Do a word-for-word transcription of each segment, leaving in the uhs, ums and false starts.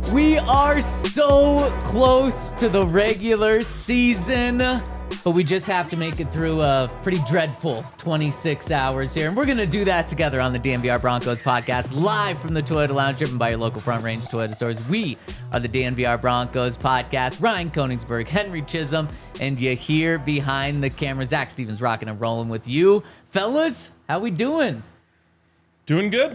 We are so close to the regular season, but we just have to make it through a pretty dreadful twenty-six hours here. And we're going to do that together on the D N V R Broncos podcast, live from the Toyota Lounge, driven by your local Front Range Toyota stores. We are the D N V R Broncos podcast. Ryan Koenigsberg, Henry Chisholm, and you here behind the camera, Zach Stevens, rocking and rolling with you. Fellas, how we doing? Doing good.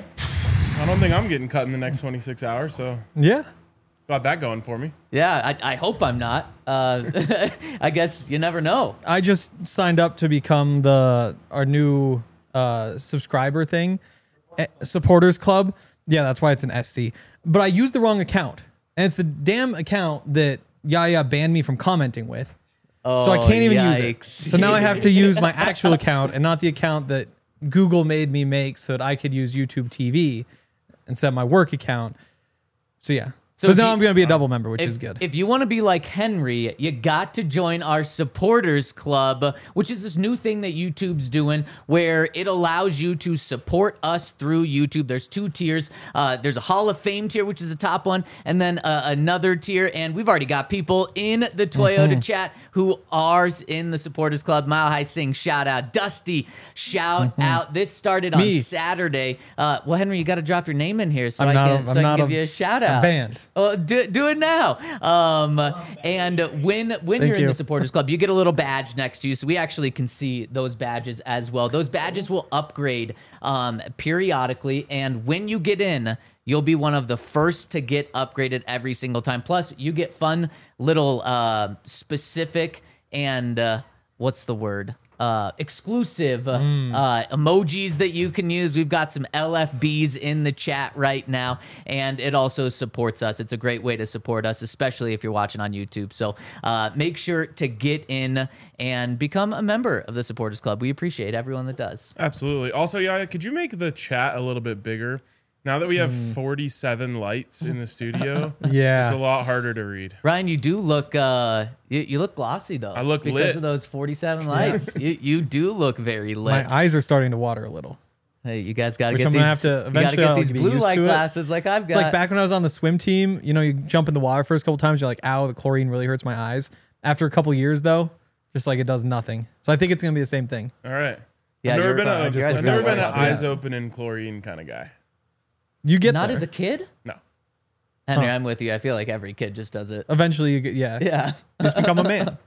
I don't think I'm getting cut in the next twenty-six hours, so yeah. Got that going for me. Yeah, I, I hope I'm not. Uh, I guess you never know. I just signed up to become the our new uh, subscriber thing, eh, supporters club. Yeah, that's why it's an S C. But I used the wrong account, and it's the damn account that Yaya banned me from commenting with. Oh, so I can't even yikes. use it. So now I have to use my actual account and not the account that Google made me make so that I could use YouTube T V instead of my work account. So yeah. So now I'm going to be a double member, which if, is good. If you want to be like Henry, you got to join our supporters club, which is this new thing that YouTube's doing where it allows you to support us through YouTube. There's two tiers. Uh, there's a Hall of Fame tier, which is the top one, and then uh, another tier. And we've already got people in the Toyota mm-hmm. chat who are in the supporters club. Mile High Sing, shout out. Dusty, shout mm-hmm. out. This started Me. on Saturday. Uh, well, Henry, you got to drop your name in here so I'm I not, can, so I can give a, you a shout out. Banned. Oh, do, do it now. Um, and when when Thank you're you. in the supporters club, you get a little badge next to you, so we actually can see those badges as well. Those badges will upgrade um, periodically, and when you get in, you'll be one of the first to get upgraded every single time. Plus, you get fun little uh, specific and uh, what's the word? Uh, exclusive mm. uh, emojis that you can use. We've got some L F Bs in the chat right now, and it also supports us. It's a great way to support us, especially if you're watching on YouTube. So uh, make sure to get in and become a member of the Supporters Club. We appreciate everyone that does. Absolutely. Also, Yaya, could you make the chat a little bit bigger? Now that we have mm. forty-seven lights in the studio, yeah, it's a lot harder to read. Ryan, you do look uh, you, you look glossy though. I look because lit. of those forty-seven lights. you you do look very lit. My eyes are starting to water a little. Hey, you guys got to Which get I'm these. gonna have to you got to eventually get I'll these be blue used light to it. glasses like I've got. It's like back when I was on the swim team. You know, you jump in the water first couple times, you're like, "Ow, the chlorine really hurts my eyes." After a couple years, though, just like it does nothing. So I think it's gonna be the same thing. All right. Yeah, I've never you're- been sorry, a, your eyes I've really never been light an up. eyes Yeah. open in chlorine kind of guy. You get Not there. as a kid. No. Henry, Huh. I'm with you. I feel like every kid just does it. Eventually, you get yeah, Yeah. just become a man.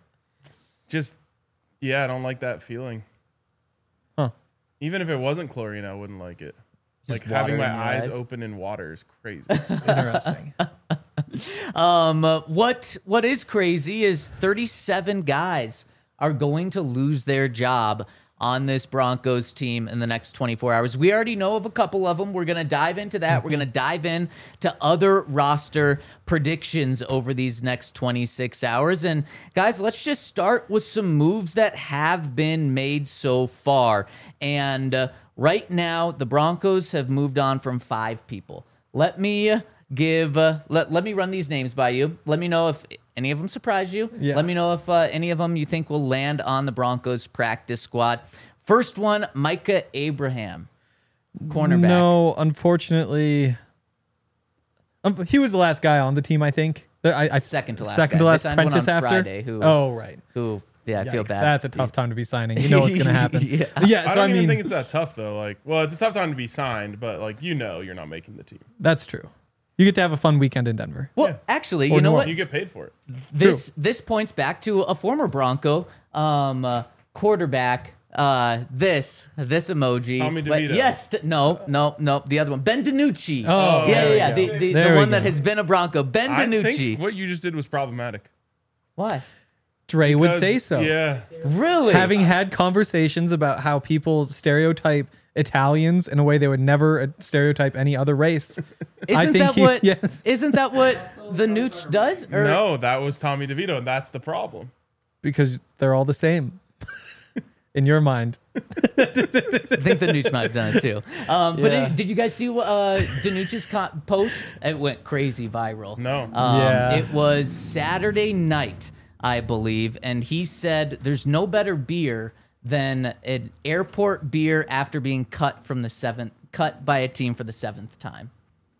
Just, yeah, I don't like that feeling. Huh. Even if it wasn't chlorine, I wouldn't like it. Like water having in my your eyes, eyes? open in water is crazy. Interesting. Um, uh, what what is crazy is thirty-seven guys are going to lose their job on this Broncos team in the next twenty-four hours. We already know of a couple of them. We're going to dive into that. We're going to dive in to other roster predictions over these next twenty-six hours. And guys, let's just start with some moves that have been made so far. And uh, right now, the Broncos have moved on from five people. Let me give, uh, let, let me run these names by you. Let me know if any of them surprise you. Yeah. Let me know if uh, any of them you think will land on the Broncos practice squad. First one, Micah Abraham, cornerback. No, unfortunately, um, he was the last guy on the team. I think. The- I, I, Second to last Second guy. to They last signed one apprentice on after. Friday, who- oh right. Who, yeah, I feel Yikes, bad. That's a tough time to be signing. You know what's going to happen. Yeah. yeah. I So don't I, even mean, think it's that tough though. Like, well, it's a tough time to be signed, but like you know, you're not making the team. that's true. You get to have a fun weekend in Denver. Well, Yeah. actually, Or you know North. what? You get paid for it. This this points back to a former Bronco um, uh, quarterback. Uh, this this emoji. Tommy But DeVito. yes, th- no, no, no. The other one, Ben DiNucci. Oh, yeah, there yeah, we yeah. go. The, the, There the we one that go. has been a Bronco, Ben I DiNucci. think what you just did was problematic. Why? Dre would Because- say so. Yeah. Really? Having had conversations about how people stereotype Italians in a way they would never uh, stereotype any other race. Isn't I think that he- what? yes. Isn't that what the Nooch does? Or, No, that was Tommy DeVito, and that's the problem. Because they're all the same. In your mind. I think the Nooch might have done it too. Um, But Yeah. uh, did you guys see uh, Danucci's co- post? It went crazy viral. No. Um, Yeah. It was Saturday night, I believe, and he said there's no better beer than an airport beer after being cut from the seventh, cut by a team for the seventh time.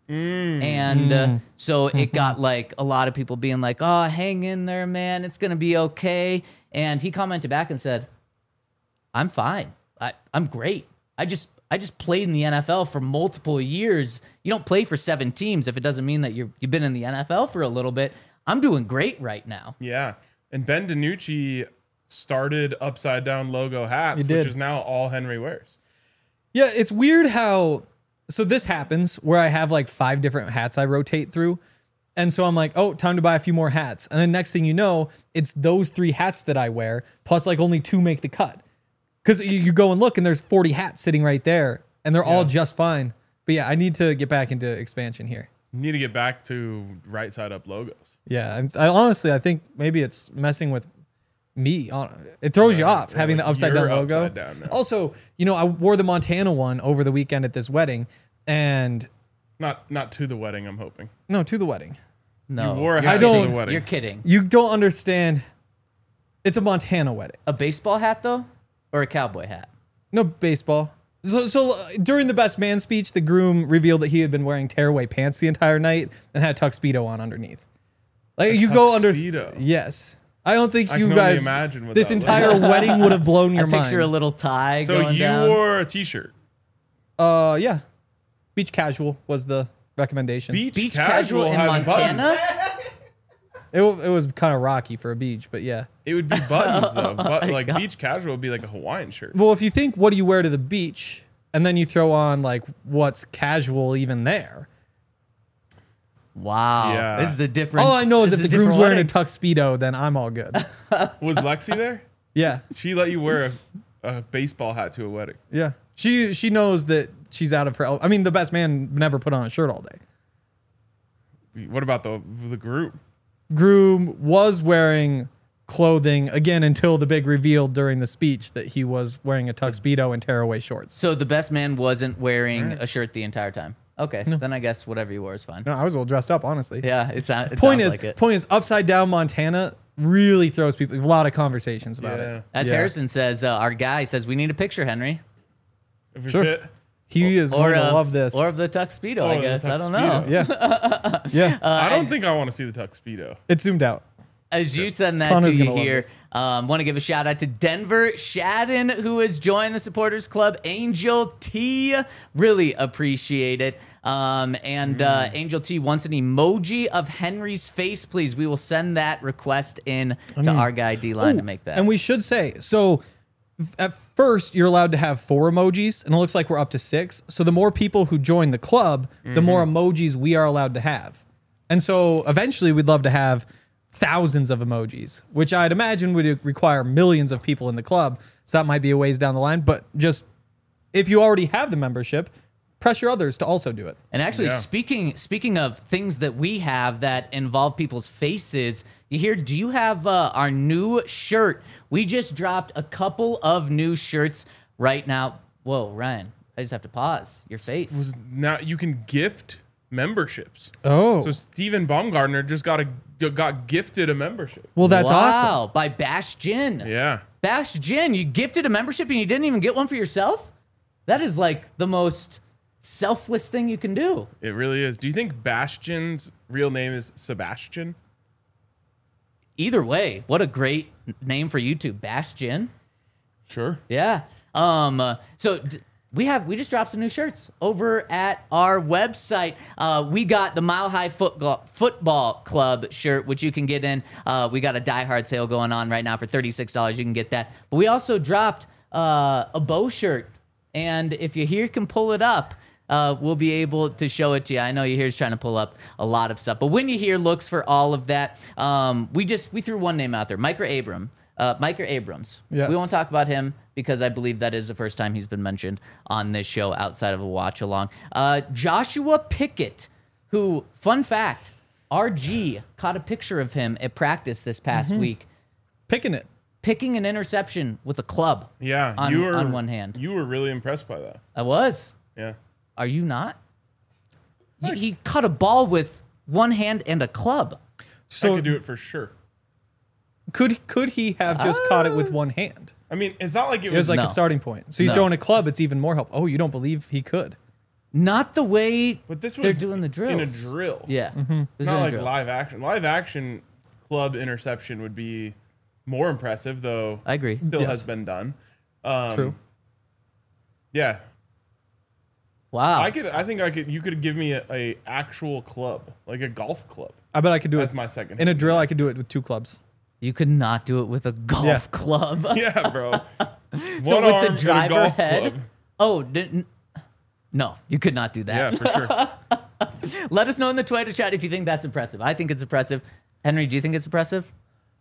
And uh, so it got like a lot of people being like, oh, hang in there, man. It's going to be okay. And he commented back and said, I'm fine. I, I'm great. I just I just played in the N F L for multiple years. You don't play for seven teams if it doesn't mean that you're, you've been in the N F L for a little bit. I'm doing great right now. Yeah. And Ben DiNucci started upside down logo hats, He which did. is now all Henry wears. Yeah, it's weird how. So this happens where I have like five different hats I rotate through. And so I'm like, oh, time to buy a few more hats. And then next thing you know, it's those three hats that I wear, plus like only two make the cut. Because you, you go and look and there's forty hats sitting right there and they're all just fine. But yeah, I need to get back into expansion here. You need to get back to right side up logos. Yeah, I'm- I honestly, I think maybe it's messing with me. It throws you Yeah, off yeah, having like the upside down you're logo. upside down now. Also, you know, I wore the Montana one over the weekend at this wedding, and Not not to the wedding, I'm hoping. no, to the wedding. No, You wore a you're hat I to don't- the wedding. You're kidding. You don't understand. It's a Montana wedding. A baseball hat though, or a cowboy hat? No baseball. So, so uh, during the best man speech, the groom revealed that he had been wearing tearaway pants the entire night and had tuxedo on underneath. Like you go under. tuxedo? Yes. I don't think I you can only guys. imagine what This that looks entire like. wedding would have blown your I mind. picture a little tie So going you down. wore a t-shirt. Uh, yeah. Beach casual was the recommendation. Beach, Beach casual, casual in has Montana. buttons. It, wa- it was kind of rocky for a beach, but yeah. It would be buttons though. But my like God. beach casual would be like a Hawaiian shirt. Well, if you think, what do you wear to the beach? And then you throw on like what's casual even there. Wow, Yeah. this is a different. All I know is this if the a different groom's wearing a wedding. tuxedo, then I'm all good. Was Lexi there? Yeah. She let you wear a, a baseball hat to a wedding. Yeah. She she knows that she's out of her. el- I mean, the best man never put on a shirt all day. What about the the group? Groom was wearing clothing again until the big reveal during the speech that he was wearing a tuxedo and tearaway shorts. So the best man wasn't wearing a shirt the entire time. Okay, then I guess whatever you wore is fine. No, I was all dressed up, honestly. Yeah, it's it Point sounds is, like it. point is, upside down Montana really throws people. A lot of conversations about Yeah. it. As Yeah. Harrison says, uh, our guy says we need a picture, Henry, If you're Sure. fit. He is or going to of, love this. or of the tuxedo. Oh, I the guess I don't know. tuxedo. yeah, yeah. I don't as- think I want to see the tuxedo. It zoomed out. As you send that Connor's to you gonna love here, this. um, want to give a shout out to Denver Shadden, who has joined the supporters club. Angel T, really appreciate it. Um, and Mm. uh, Angel T wants an emoji of Henry's face, please. We will send that request in to our guy D Line to Ooh, make that. And we should say, so f- at first you're allowed to have four emojis, and it looks like we're up to six. So the more people who join the club, the more emojis we are allowed to have. And so eventually we'd love to have thousands of emojis, which I'd imagine would require millions of people in the club. So that might be a ways down the line. But just if you already have the membership, pressure others to also do it. And actually, Yeah. speaking speaking of things that we have that involve people's faces, you hear? Do you have uh, our new shirt? We just dropped a couple of new shirts right now. Whoa, Ryan! I just have to pause. Your face. Was now you can gift memberships. Oh, So Stephen Baumgartner just got a got gifted a membership. well, that's wow, awesome. by Bash Gin. Yeah. Bash Gin, you gifted a membership and you didn't even get one for yourself? That is like the most selfless thing you can do. It really is. Do you think Bastion's real name is Sebastian? Either way, what a great n- name for YouTube, Bash Gin. Sure. Yeah. Um. uh, so d- we have we just dropped some new shirts over at our website. Uh, we got the Mile High Football Football Club shirt, which you can get in. Uh, we got a Die Hard sale going on right now for thirty-six dollars. You can get that. But we also dropped uh, a bow shirt, and if you here can pull it up. Uh, we'll be able to show it to you. I know you here's trying to pull up a lot of stuff, but when you hear looks for all of that, um, we just we threw one name out there, Micah Abram, uh, Micah Abrams. Yes. We won't talk about him because I believe that is the first time he's been mentioned on this show outside of a watch along. Uh, Joshua Pickett, who, fun fact, R G caught a picture of him at practice this past Mm-hmm. week, Picking it. picking an interception with a club. Yeah. On- you were on one hand. You were really impressed by that. I was. Yeah. Are you not? He, he caught a ball with one hand and a club. I So could do it for sure. could could he have just caught it with one hand? I mean, it's not like it It was, was like No. a starting point. So he's No. throwing a club. It's even more help. Oh, you don't believe he could? Not the way But this was they're doing the drills. in a drill. Yeah. Mm-hmm. This is Not in a like drill. live action. Live action club interception would be more impressive, though. I agree. Still Yes. has been done. Um, True. Yeah, Wow. I could. I think I could. You could give me a, a actual club, like a golf club. I bet I could do That's it my second. in a drill. I could do it with two clubs. You could not do it with a golf Yeah. club. Yeah, bro. So One with arm the and a driver golf head. club. Oh, didn't. No, you could not do that. Yeah, for sure. Let us know in the Twitter chat if you think that's impressive. I think it's impressive. Henry, do you think it's impressive?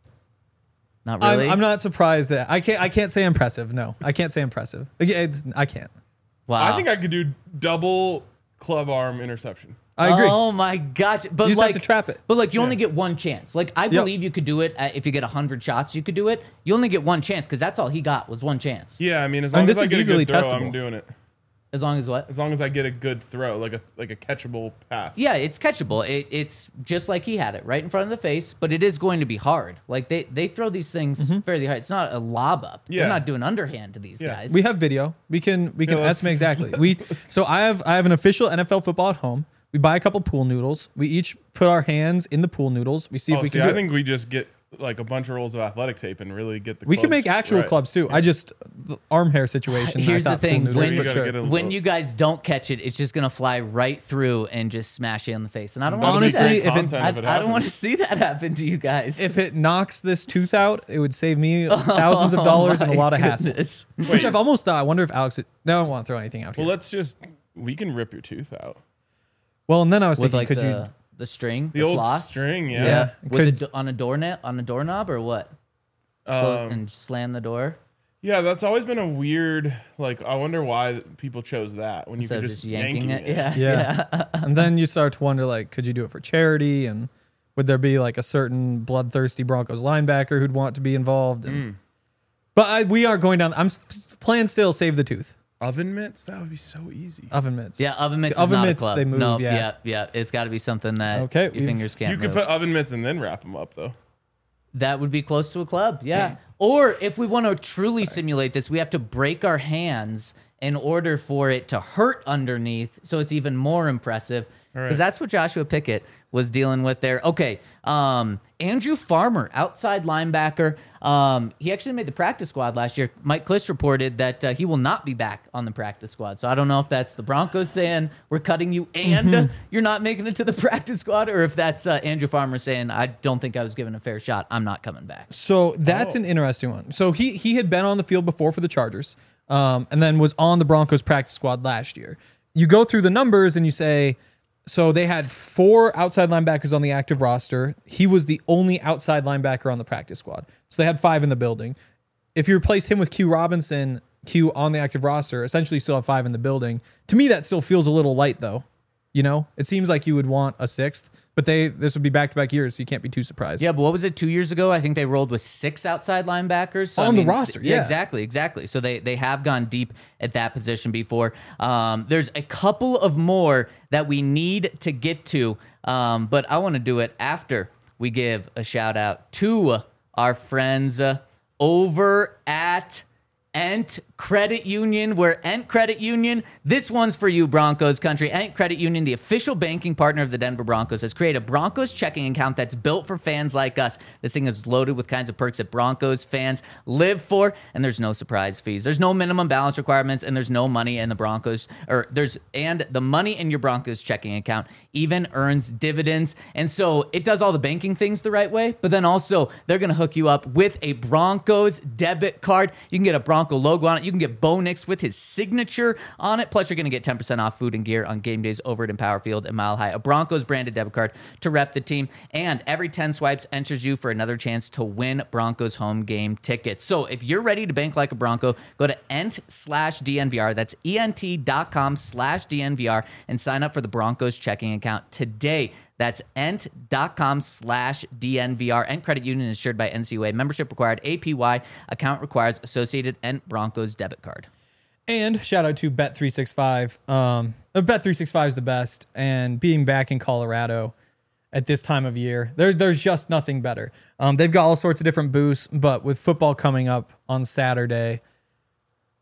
Not really. I'm, I'm not surprised that I can't. I can't say impressive. No, I can't say impressive. Like, It's, I can't. Wow. I think I could do double club arm interception. I agree. Oh my gosh! But You just like, have to trap it. But like, you only get one chance. Like, I Yep. believe you could do it at, if you get hundred shots. You could do it. You only get one chance because that's all he got was one chance. Yeah, I mean, as I mean, long this as I is get a easily good throw, testable. I'm doing it. As long as what? As long as I get a good throw, like a like a catchable pass. Yeah, it's catchable. It, it's just like he had it right in front of the face, but it is going to be hard. Like they they throw these things fairly hard. It's not a lob up. Yeah. They're not doing underhand to these Yeah. guys. We have video. We can we can Yeah, let's- estimate exactly. We so I have I have an official N F L football at home. We buy a couple pool noodles. We each put our hands in the pool noodles. We see Oh, if we see, can do I it. think we just get like a bunch of rolls of athletic tape and really get the. We can clubs make actual right. clubs too. I just the arm hair situation. Here's I the thought pool thing, noodles, when- You but gotta sure. get a when little- you guys don't catch it, it's just gonna fly right through and just smash you in the face. And I don't want to Honestly, see if that. it- content I, if it I don't want to happens. see that happen to you guys. If it knocks this tooth out, it would save me thousands of dollars and a Oh My lot of hassle. goodness. Which I've almost thought. I wonder if Alex. No, I don't want to throw anything out here. Well, let's just we can rip your tooth out. Well, and then I was With thinking, like could the you? the string, The the, old floss? string, yeah. Yeah, Yeah, with a could- do- on a doorknob on a doorknob or what? Close Um, and slam the door yeah, that's always been a weird. Like, I wonder why people chose that when you instead could of just just yanking yanking it. Yeah, Yeah. yeah. And then you start to wonder, like, could you do it for charity? And would there be like a certain bloodthirsty Broncos linebacker who'd want to be involved? And, Mm. But I, we are going down. I'm s- playing still. Save the tooth. Oven mitts. That would be so easy. Oven mitts. Yeah, oven mitts The is oven not mitts, a club. they move, no, yeah. yeah, yeah. It's got to be something that Okay, your we've- fingers can't You could move. put oven mitts and then wrap them up, though. That would be close to a club, yeah. Or if we want to truly simulate this, we have to break our hands in order for it to hurt underneath, so it's even more impressive. Because right. that's what Joshua Pickett was dealing with there. Okay, um, Andrew Farmer, outside linebacker. Um, he actually made the practice squad last year. Mike Kliss reported that uh, he will not be back on the practice squad. So I don't know if that's the Broncos saying we're cutting you and you're not making it to the practice squad, or if that's uh, Andrew Farmer saying I don't think I was given a fair shot. I'm not coming back. So that's Oh. an interesting one. So he he had been on the field before for the Chargers, um, and then was on the Broncos practice squad last year. You go through the numbers and you say, so they had four outside linebackers on the active roster. He was the only outside linebacker on the practice squad. So they had five in the building. If you replace him with Q Robinson, Q on the active roster, essentially you still have five in the building. To me, that still feels a little light though. You know, it seems like you would want a sixth, but they this would be back to back years, so you can't be too surprised. Yeah, but what was it two years ago? I think they rolled with six outside linebackers So, I On the mean, roster, th- yeah. exactly, exactly. So they they have gone deep at that position before. Um, there's a couple of more that we need to get to, um, but I want to do it after we give a shout out to our friends uh, over at Ent Credit Union. We're Ent Credit Union. This one's for you, Broncos country. Ent Credit Union, the official banking partner of the Denver Broncos, has created a Broncos checking account that's built for fans like us. This thing is loaded with kinds of perks that Broncos fans live for, and there's no surprise fees. There's no minimum balance requirements, and there's no money in the Broncos, or there's, and the money in your Broncos checking account even earns dividends. And so it does all the banking things the right way, but then also they're going to hook you up with a Broncos debit card. You can get a Bronco logo on it. You can get Bo Nix with his signature on it. Plus, you're going to get ten percent off food and gear on game days over at Empower Field and Mile High. A Broncos branded debit card to rep the team. And every ten swipes enters you for another chance to win Broncos home game tickets. So if you're ready to bank like a Bronco, go to ent slash DNVR. That's ent.com slash DNVR and sign up for the Broncos checking account today. That's ent.com slash DNVR. Ent Credit Union is insured by N C U A. Membership required. A P Y. Account requires associated Ent Broncos debit card. And shout out to Bet three sixty-five. Um, Bet three sixty-five is the best, and being back in Colorado at this time of year, there's there's just nothing better. Um, they've got all sorts of different boosts, but with football coming up on Saturday,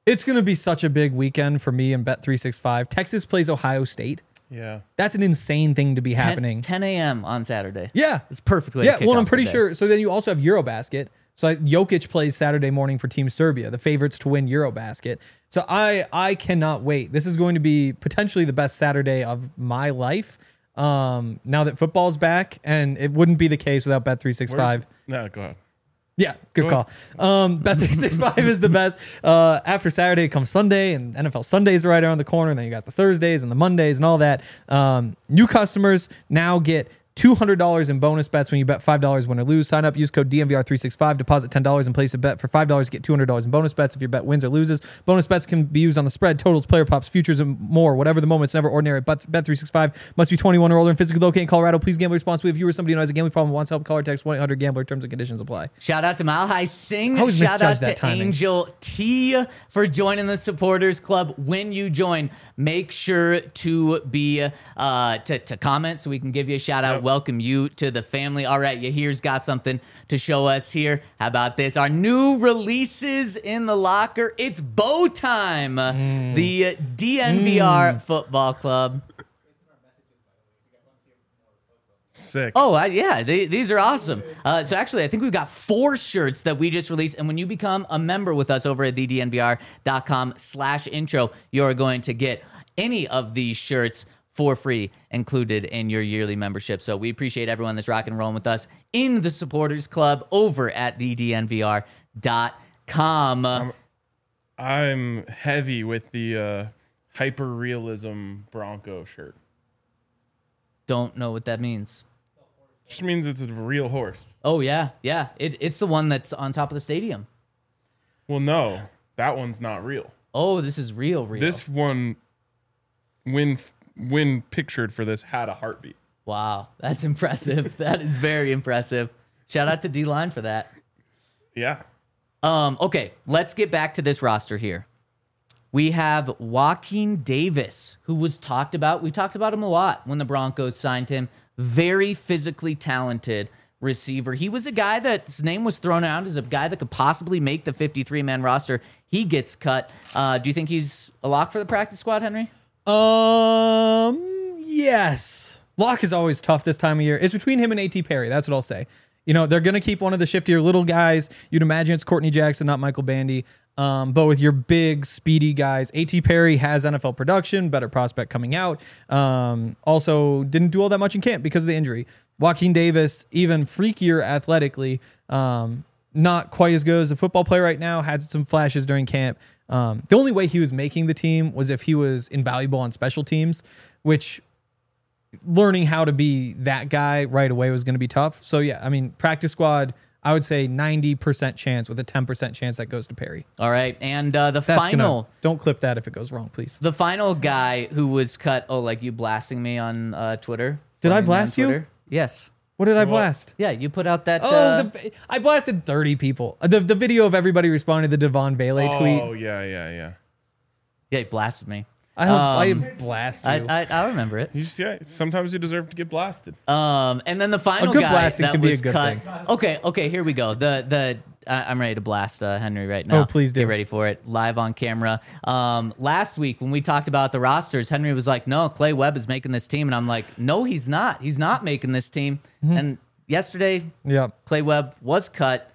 It's going to be such a big weekend for me and Bet three sixty-five. Texas plays Ohio State. Yeah. That's an insane thing to be happening. ten a.m. on Saturday. Yeah. It's a perfect way Yeah, to kick well, I'm off pretty the day. sure. So then you also have Eurobasket. So like, Jokic plays Saturday morning for Team Serbia, the favorites to win Eurobasket. So I I cannot wait. This is going to be potentially the best Saturday of my life. Um, now that football's back, and it wouldn't be the case without Bet three sixty-five. No, go ahead. Yeah, good call. Um, Bet three sixty-five is the best. Uh, after Saturday comes Sunday, and N F L Sundays are right around the corner. And then you got the Thursdays and the Mondays and all that. Um, new customers now get two hundred dollars in bonus bets when you bet five dollars win or lose. Sign up, use code D N V R three sixty-five, deposit ten dollars and place a bet for five dollars, get two hundred dollars in bonus bets if your bet wins or loses. Bonus bets can be used on the spread, totals, player props, futures, and more. Whatever the moment, it's never ordinary. But Bet three sixty-five must be twenty-one or older and physically located in Colorado. Please gamble responsibly. If you or somebody who has a gambling problem wants help, call or text one eight hundred gambler. Terms and conditions apply. Shout out to Mile High Sing. I always Shout out misjudge to that timing. Angel T for joining the supporters club. When you join, make sure to be uh, to, to comment so we can give you a shout out. Yep. Welcome you to the family. All right, Yahir's got something to show us here. How about this? Our new releases in the locker. It's bow time. Mm. The D N V R Mm. Football Club. Sick. Oh, I, yeah, they, these are awesome. Uh, so actually, I think we've got four shirts that we just released. And when you become a member with us over at the D N V R dot com slash intro, you're going to get any of these shirts for free included in your yearly membership. So we appreciate everyone that's rocking and rolling with us in the supporters club over at the D N V R dot com. Um, I'm heavy with the uh, hyper realism Bronco shirt. Don't know what that means. Just means it's a real horse. Oh, yeah, yeah. It, it's the one that's on top of the stadium. Well, no, that one's not real. Oh, this is real, real. This one, when when pictured for this, had a heartbeat. Wow, that's impressive. That is very impressive. Shout out to D-Line for that. Yeah. Um, okay, let's get back to this roster here. We have Joaquin Davis, who was talked about. We talked about him a lot when the Broncos signed him. Very physically talented receiver. He was a guy that's name was thrown out as a guy that could possibly make the fifty-three man roster. He gets cut. Uh, do you think he's a lock for the practice squad, Henry? Um, yes. Lock is always tough this time of year. It's between him and A T Perry. That's what I'll say. You know, they're going to keep one of the shiftier little guys. You'd imagine it's Courtney Jackson, not Michael Bandy. Um, but with your big, speedy guys, A T Perry has N F L production, better prospect coming out. Um, also, didn't do all that much in camp because of the injury. Joaquin Davis, even freakier athletically, um, not quite as good as a football player right now, had some flashes during camp. Um, the only way he was making the team was if he was invaluable on special teams, which learning how to be that guy right away was going to be tough. So, yeah, I mean, practice squad, I would say ninety percent chance with a ten percent chance that goes to Perry. All right, and uh, the That's final... Gonna, don't clip that if it goes wrong, please. The final guy who was cut... Oh, like you blasting me on uh, Twitter? Did I Following me on blast you? Twitter? Yes. What did I Well, blast? Yeah, you put out that... Oh, uh, the, I blasted thirty people. The the video of everybody responding to the Devon Vele Oh, tweet. yeah, yeah, yeah. Yeah, he blasted me. I hope Um, I blast you. I, I I remember it. You just, yeah, sometimes you deserve to get blasted. Um, and then the final A good guy blasting that can be a was good cut. thing. Okay, okay, here we go. The the I- I'm ready to blast uh, Henry right now. Oh, please do. Get ready for it live on camera. Um, last week when we talked about the rosters, Henry was like, "No, Clay Webb is making this team," and I'm like, "No, he's not. He's not making this team." Mm-hmm. And yesterday, Yep. Clay Webb was cut.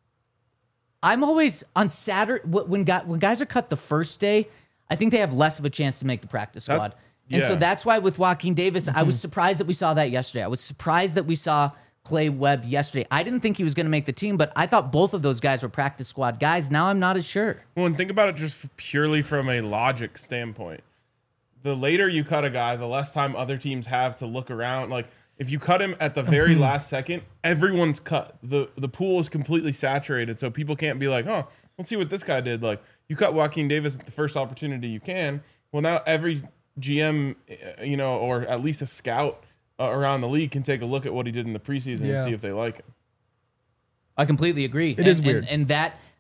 I'm always on Saturday when guy, when guys are cut the first day. I think they have less of a chance to make the practice That- squad. And so yeah. that's why with Joaquin Davis, I was surprised that we saw that yesterday. I was surprised that we saw Clay Webb yesterday. I didn't think he was going to make the team, but I thought both of those guys were practice squad guys. Now I'm not as sure. Well, and think about it just purely from a logic standpoint. The later you cut a guy, the less time other teams have to look around. Like, if you cut him at the very last second, everyone's cut. The the pool is completely saturated, so people can't be like, oh, let's see what this guy did. Like, you cut Joaquin Davis at the first opportunity you can. Well, now every G M, uh, you know, or at least a scout uh, around the league can take a look at what he did in the preseason Yeah. and see if they like him. I completely agree. It It is is weird. And, and that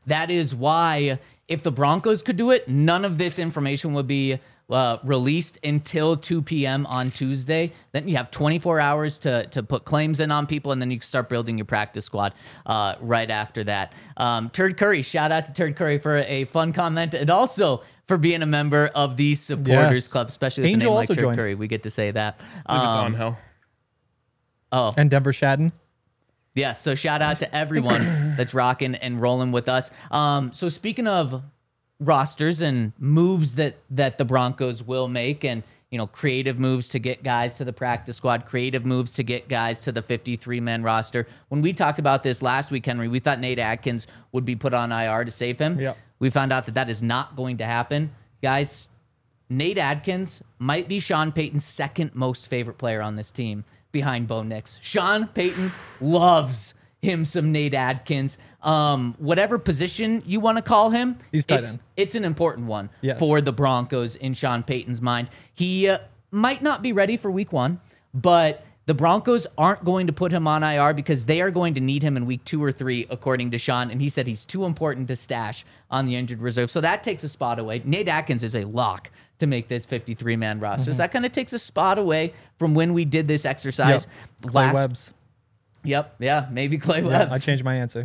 That is why if the Broncos could do it, none of this information would be uh, released until two p.m. on Tuesday. Then you have twenty-four hours to to put claims in on people, and then you can start building your practice squad uh, right after that. Um, Turd Curry, shout out to Turd Curry for a fun comment, and also for being a member of the supporters Yes. club, especially with Angel a name like also Turd joined. Curry. We get to say that. I believe it's Um, on hell. oh, And Denver Shadden. yeah, so shout out to everyone that's rocking and rolling with us. Um, so speaking of rosters and moves that that the Broncos will make, and you know, creative moves to get guys to the practice squad, creative moves to get guys to the fifty-three man roster. When we talked about this last week, Henry, we thought Nate Atkins would be put on I R to save him. Yep. We found out that that is not going to happen. Guys, Nate Atkins might be Sean Payton's second most favorite player on this team behind Bo Nix. Sean Payton loves him some Nate Atkins. Um, whatever position you want to call him, He's tight it's, end. it's an important one Yes. for the Broncos in Sean Payton's mind. He uh, might not be ready for week one, but the Broncos aren't going to put him on I R because they are going to need him in week two or three, according to Sean. And he said he's too important to stash on the injured reserve. So that takes a spot away. Nate Atkins is a lock to make this fifty-three man roster. Mm-hmm. So that kind of takes a spot away from when we did this exercise Yep. Clay last. Webbs. Yep. Yeah. Maybe Clay Yeah, Webbs. I changed my answer.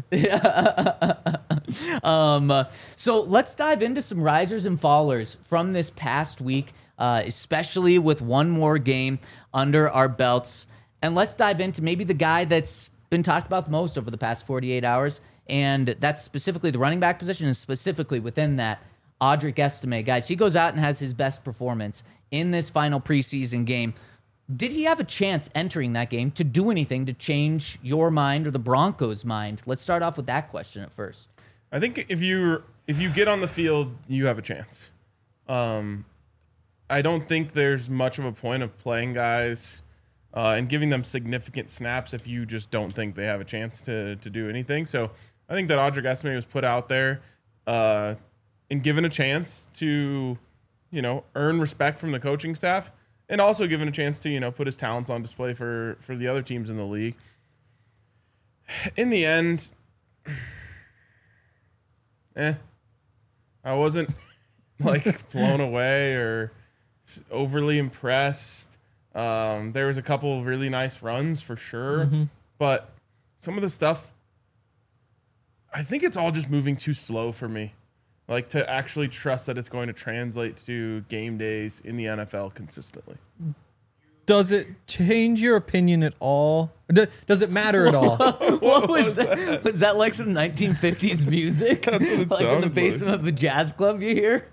Um, uh, so let's dive into some risers and fallers from this past week, uh, especially with one more game under our belts. And let's dive into maybe the guy that's been talked about the most over the past forty-eight hours, and that's specifically the running back position, and specifically within that, Audric Estime. Guys, he goes out and has his best performance in this final preseason game. Did he have a chance entering that game to do anything to change your mind or the Broncos' mind? Let's start off with that question at first. I think if you if you get on the field, you have a chance. Um, I don't think there's much of a point of playing guys uh, and giving them significant snaps if you just don't think they have a chance to to do anything. So I think that Audric Estime was put out there uh, and given a chance to, you know, earn respect from the coaching staff, and also given a chance to, you know, put his talents on display for for the other teams in the league. In the end, eh, I wasn't like blown away or s- overly impressed. Um, there was a couple of really nice runs for sure, Mm-hmm. but some of the stuff, I think it's all just moving too slow for me. Like to actually trust that it's going to translate to game days in the N F L consistently. Does it change your opinion at all? D- Does it matter at all? What was that? Was that like some nineteen fifties music? what it Like in the sounded basement of a jazz club you hear?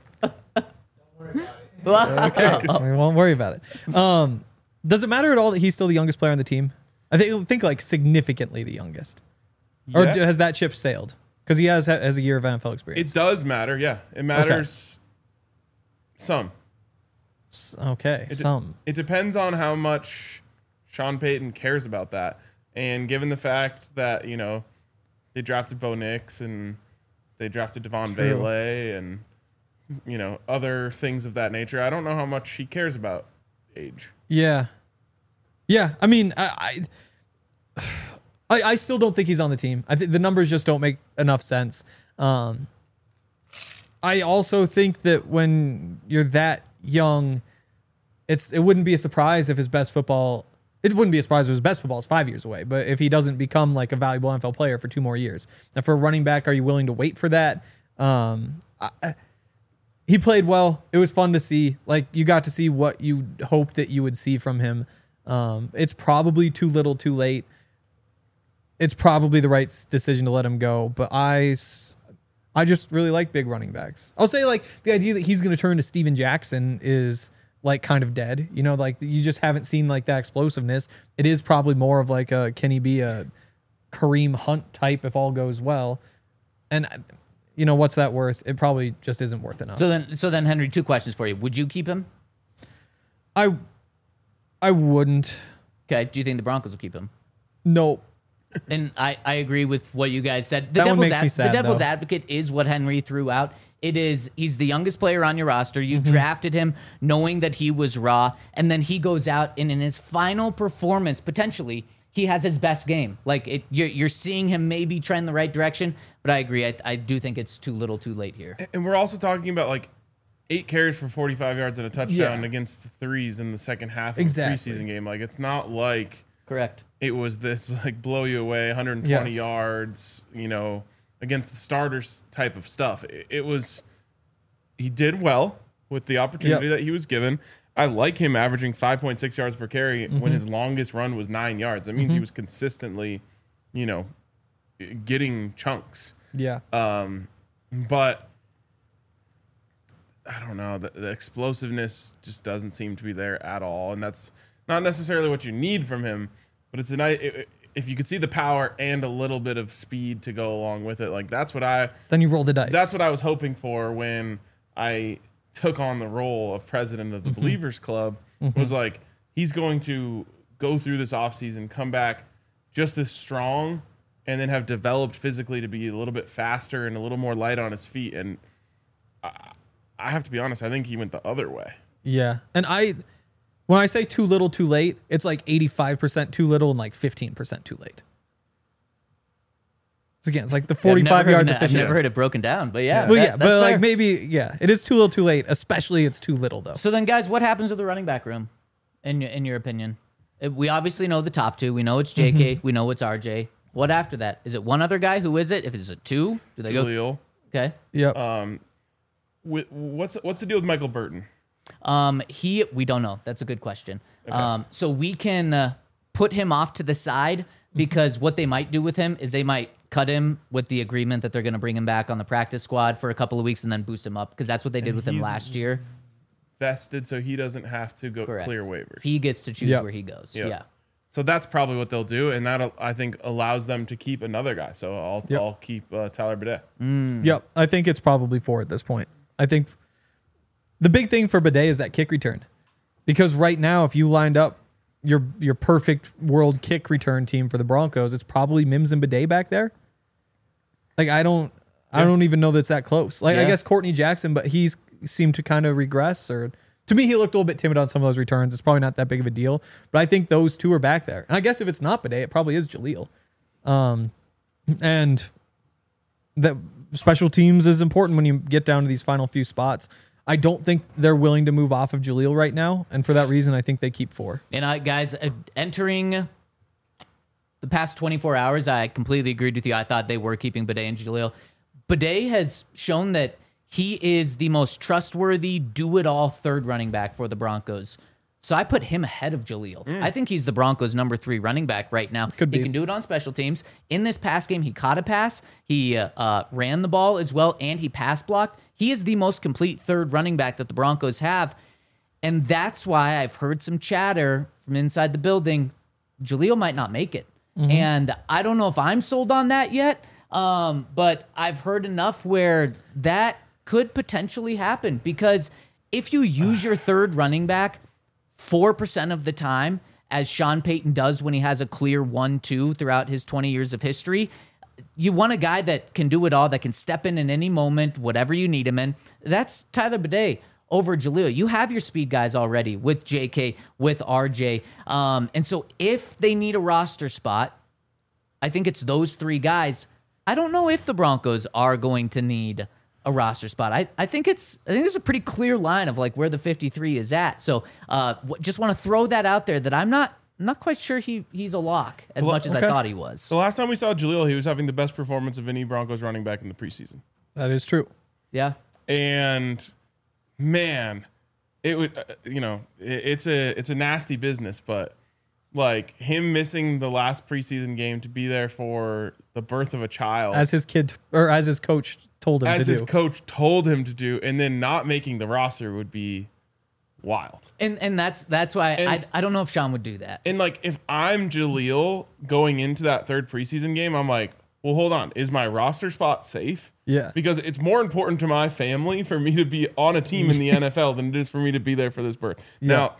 Okay, we won't worry about it. Um, does it matter at all that he's still the youngest player on the team? I think think like significantly the youngest, or Yeah. d- has that ship sailed? Because he has has a year of N F L experience. It does matter, yeah. It matters some. S- okay, It, some. it depends on how much Sean Payton cares about that. And given the fact that, you know, they drafted Bo Nix and they drafted Devon True. Bailey and, you know, other things of that nature, I don't know how much he cares about age. Yeah, yeah. I mean, I, I, I, I still don't think he's on the team. I think the numbers just don't make enough sense. Um, I also think that when you're that young, it's it wouldn't be a surprise if his best football. It wouldn't be a surprise if his best football is five years away. But if he doesn't become like a valuable N F L player for two more years, and for a running back, are you willing to wait for that? Um, I, he played well. It was fun to see. Like you got to see what you hoped that you would see from him. Um, it's probably too little, too late. It's probably the right s- decision to let him go. But I, s- I just really like big running backs. I'll say like the idea that he's going to turn to Steven Jackson is like kind of dead. You know, like you just haven't seen like that explosiveness. It is probably more of like a can he be a Kareem Hunt type if all goes well, and. You know, what's that worth? It probably just isn't worth enough. So then, so then, Henry, two questions for you. Would you keep him? I I wouldn't. Okay. Do you think the Broncos will keep him? No. And I, I agree with what you guys said. The That one devil's makes me sad, the devil's though. advocate is what Henry threw out. It is he's the youngest player on your roster. You Mm-hmm. drafted him knowing that he was raw, and then he goes out and in his final performance, potentially he has his best game. Like it, you're, you're seeing him maybe trend the right direction, but I agree. I, I do think it's too little too late here. And we're also talking about like eight carries for forty-five yards and a touchdown Yeah. against the threes in the second half of Exactly. a preseason game. Like it's not like Correct. it was this like blow you away, one hundred twenty Yes. yards, you know, against the starters type of stuff. It, it was, he did well with the opportunity Yep. that he was given. I like him averaging five point six yards per carry Mm-hmm. when his longest run was nine yards. That means he was consistently, you know, getting chunks. Yeah. Um, but I don't know. The, the explosiveness just doesn't seem to be there at all, and that's not necessarily what you need from him. But it's a nice if you could see the power and a little bit of speed to go along with it. Like that's what I Then you roll the dice. that's what I was hoping for when I took on the role of president of the Believers Club. Was like he's going to go through this offseason, come back just as strong, and then have developed physically to be a little bit faster and a little more light on his feet. And I, I have to be honest, I think he went the other way. Yeah. And I, when I say too little, too late, it's like eighty-five percent too little and like fifteen percent too late. So again, it's like the Yeah, I've never forty-five heard yards it- I've efficient. never heard it broken down, but yeah. Well, that- yeah, that's but like fair. maybe, yeah, it is too little, too late. Especially, it's too little though. So then, guys, what happens to the running back room, in your, in your opinion? Uh, We obviously know the top two. We know it's J K. Mm-hmm. We know it's R J. What after that? Is it one other guy? Who is it? If it's a two, do they go? Jaleel. Okay. Yep. Um, wi- what's what's the deal with Michael Burton? Um, he we don't know. That's a good question. Um, so we can uh, put him off to the side because what they might do with him is they might cut him with the agreement that they're going to bring him back on the practice squad for a couple of weeks and then boost him up because that's what they did And with him he's- last year. Vested, so he doesn't have to go Correct. clear waivers. He gets to choose Yep. where he goes. Yep. Yeah. So that's probably what they'll do, and that I think allows them to keep another guy. So I'll Yep. I'll keep uh, Tyler Bidet. Yep. I think it's probably four at this point. I think the big thing for Bidet is that kick return. Because right now, if you lined up your your perfect world kick return team for the Broncos, it's probably Mims and Bidet back there. Like I don't I Yeah. don't even know that's that close. Like I Yeah. guess Courtney Jackson, but he's seemed to kind of regress or to me he looked a little bit timid on some of those returns. It's probably not that big of a deal. But I think those two are back there. And I guess if it's not Bidet, it probably is Jaleel. Um and that special teams is important when you get down to these final few spots. I don't think they're willing to move off of Jaleel right now, and for that reason, I think they keep four. And I, guys, uh, entering the past twenty-four hours, I completely agreed with you. I thought they were keeping Bidet and Jaleel. Bidet has shown that he is the most trustworthy, do-it-all third running back for the Broncos. So I put him ahead of Jaleel. I think he's the Broncos' number three running back right now. Could he be. can do it on special teams. In this pass game, he caught a pass, he uh, uh, ran the ball as well, and he pass blocked. He is the most complete third running back that the Broncos have. And that's why I've heard some chatter from inside the building. Jaleel might not make it. And I don't know if I'm sold on that yet, um, but I've heard enough where that could potentially happen because if you use your third running back four percent of the time, as Sean Payton does when he has a clear one two throughout his twenty years of history, you want a guy that can do it all, that can step in in any moment, whatever you need him in. That's Tyler Bidet over Jaleel. You have your speed guys already with J K, with R J. Um, and so if they need a roster spot, I think it's those three guys. I don't know if the Broncos are going to need a roster spot. I, I think it's I think there's a pretty clear line of like where the fifty-three is at. So uh, w- just want to throw that out there that I'm not I'm not quite sure he he's a lock as Well, much as okay. I thought he was. The last time we saw Jaleel, he was having the best performance of any Broncos running back in the preseason. That is true. Yeah. And man, it would uh, you know it, it's a it's a nasty business, but like him missing the last preseason game to be there for the birth of a child, As his kid or as his coach told him as to his do. coach told him to do, and then not making the roster would be wild. And and that's that's why And- I I don't know if Sean would do that. And like if I'm Jaleel going into that third preseason game, I'm like, well, hold on, is my roster spot safe? Yeah. Because it's more important to my family for me to be on a team in the N F L than it is for me to be there for this birth. Now,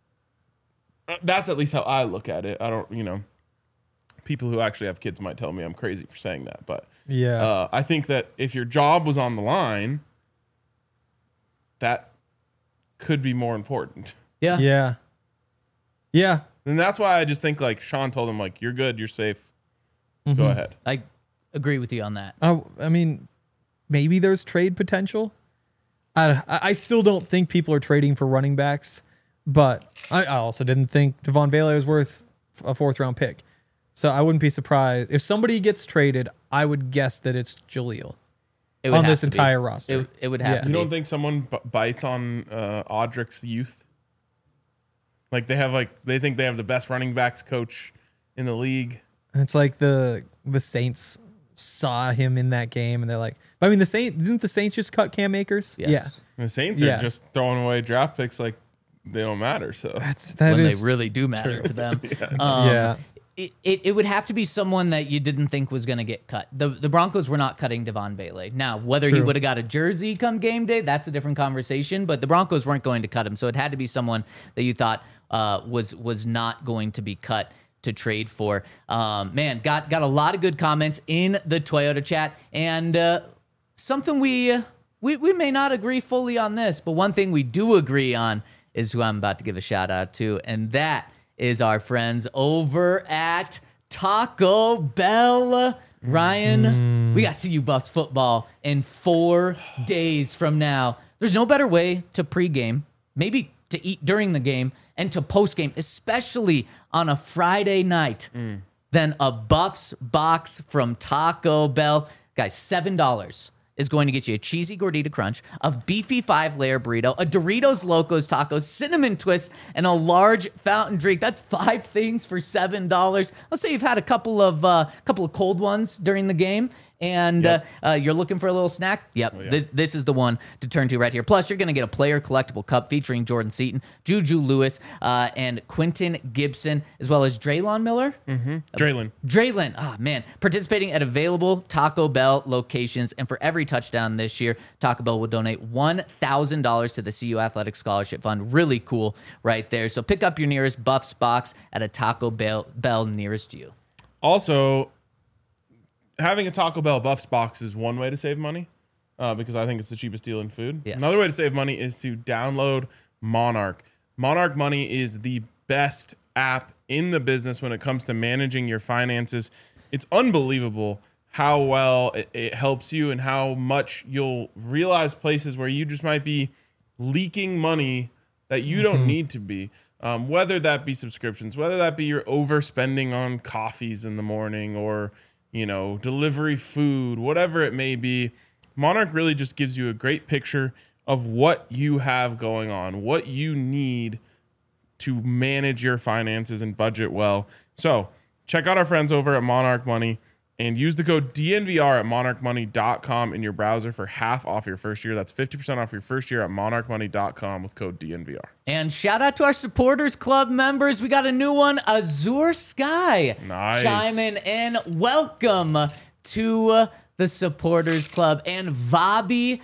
uh, that's at least how I look at it. I don't, you know, people who actually have kids might tell me I'm crazy for saying that, but Yeah. uh, I think that if your job was on the line, that could be more important. Yeah. Yeah. Yeah. And that's why I just think like Sean told him like, you're good, you're safe. Mm-hmm. Go ahead. I agree with you on that. I, I mean, maybe there's trade potential. I, I still don't think people are trading for running backs, but I, I also didn't think Devon Bailey was worth a fourth round pick. So I wouldn't be surprised if somebody gets traded. I would guess that it's Jaleel It would on have this to be. entire roster. It, it would have Yeah. to You be. don't think someone b- bites on uh, Audrick's youth? Like they have like they think they have the best running backs coach in the league. It's like the the Saints saw him in that game and they're like, but I mean, the Saints didn't the Saints just cut Cam Akers? Yes. And the Saints Yeah. are just throwing away draft picks like they don't matter. So Yeah, that's that when is they really do matter to them. Um, yeah. It, it, it would have to be someone that you didn't think was going to get cut. The the Broncos were not cutting Devon Bailey. Now, whether he True. would have got a jersey come game day, that's a different conversation. But the Broncos weren't going to cut him, so it had to be someone that you thought uh, was was not going to be cut to trade for. Um, man, got got a lot of good comments in the Toyota chat, and uh, something we, we we may not agree fully on this, but one thing we do agree on is who I'm about to give a shout out to, and that is our friends over at Taco Bell. Ryan, we got C U Buffs football in four days from now. There's no better way to pregame, maybe to eat during the game, and to postgame, especially on a Friday night, than a Buffs box from Taco Bell. Guys, seven dollars is going to get you a cheesy gordita crunch, a beefy five-layer burrito, a Doritos Locos Taco, cinnamon twist, and a large fountain drink. That's five things for seven dollars. Let's say you've had a couple of uh, couple of cold ones during the game, and Yep. uh, uh, you're looking for a little snack. Yep, yeah. this this is the one to turn to right here. Plus, you're going to get a player collectible cup featuring Jordan Seaton, Juju Lewis, uh, and Quentin Gibson, as well as Draylon Miller. Draylon. Draylon, ah man, participating at available Taco Bell locations, and for every touchdown this year, Taco Bell will donate one thousand dollars to the C U Athletic Scholarship Fund. Really cool right there. So pick up your nearest Buffs box at a Taco Bell, Bell nearest you. Also, having a Taco Bell Buffs box is one way to save money uh, because I think it's the cheapest deal in food. Yes. Another way to save money is to download Monarch. Monarch Money is the best app in the business when it comes to managing your finances. It's unbelievable how well it, it helps you and how much you'll realize places where you just might be leaking money that you don't need to be. Um, whether that be subscriptions, whether that be you're overspending on coffees in the morning or, you know, delivery food, whatever it may be, Monarch really just gives you a great picture of what you have going on, what you need to manage your finances and budget well. So check out our friends over at Monarch Money and use the code D N V R at monarch money dot com in your browser for half off your first year. That's fifty percent off your first year at monarch money dot com with code D N V R. And shout out to our supporters club members. We got a new one, Azure Sky, Nice. chiming in. Welcome to uh, the supporters club, and Vabi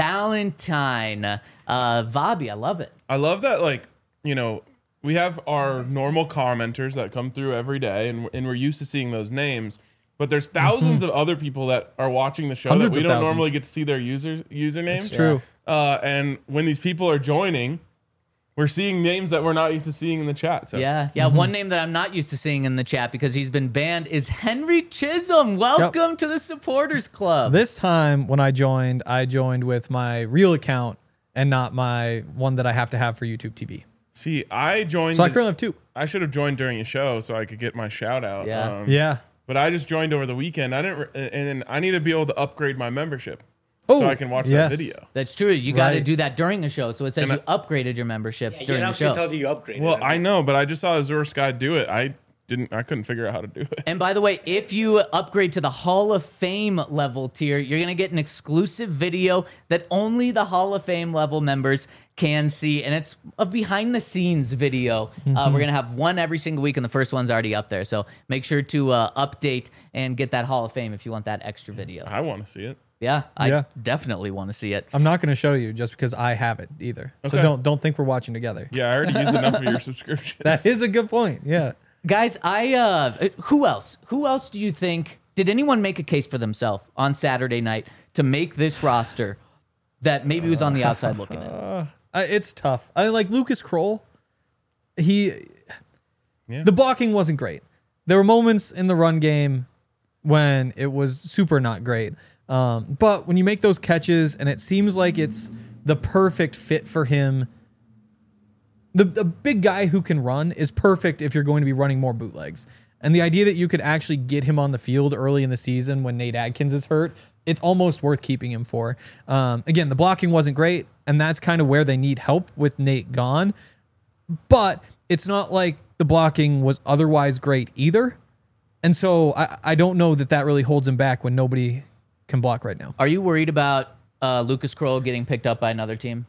Valentine. Uh, Vabi, I love it. I love that, like, you know, we have our normal commenters that come through every day, and, and we're used to seeing those names. But there's thousands of other people that are watching the show Hundreds that we of don't thousands. normally get to see their users usernames. It's true. Uh, and when these people are joining, we're seeing names that we're not used to seeing in the chat. So Yeah, yeah. One name that I'm not used to seeing in the chat because he's been banned is Henry Chisholm. Welcome to the supporters club. This time when I joined, I joined with my real account and not my one that I have to have for YouTube T V. see, I joined. So I the- currently have two. I should have joined during a show so I could get my shout out. Yeah. Um, Yeah. But I just joined over the weekend. I didn't, re- and I need to be able to upgrade my membership Oh, so I can watch yes. that video. That's true. You got to Right. do that during the show. So it says And you upgraded your membership Yeah, during it the actually show. tells you you upgraded. Well, I know, but I just saw Azure Sky do it. I didn't. I couldn't figure out how to do it. And by the way, if you upgrade to the Hall of Fame level tier, you're going to get an exclusive video that only the Hall of Fame level members can see. And it's a behind the scenes video. Uh, we're going to have one every single week, and the first one's already up there. So make sure to uh, update and get that Hall of Fame if you want that extra video. I want to see it. Yeah, I Yeah. definitely want to see it. I'm not going to show you just because I have it either. So Okay. don't don't think we're watching together. Yeah, I already used enough of your subscriptions. That is a good point. Yeah. Guys, I uh who else? Who else do you think did anyone make a case for themselves on Saturday night to make this roster that maybe was on the outside looking in? Uh, it's tough. I like Lucas Kroll. He Yeah. The blocking wasn't great. There were moments in the run game when it was super not great. Um, but when you make those catches and it seems like it's the perfect fit for him, the, the big guy who can run is perfect if you're going to be running more bootlegs. And the idea that you could actually get him on the field early in the season when Nate Adkins is hurt, it's almost worth keeping him for. Um, again, the blocking wasn't great, and that's kind of where they need help with Nate gone. But it's not like the blocking was otherwise great either. And so I, I don't know that that really holds him back when nobody can block right now. Are you worried about uh, Lucas Kroll getting picked up by another team?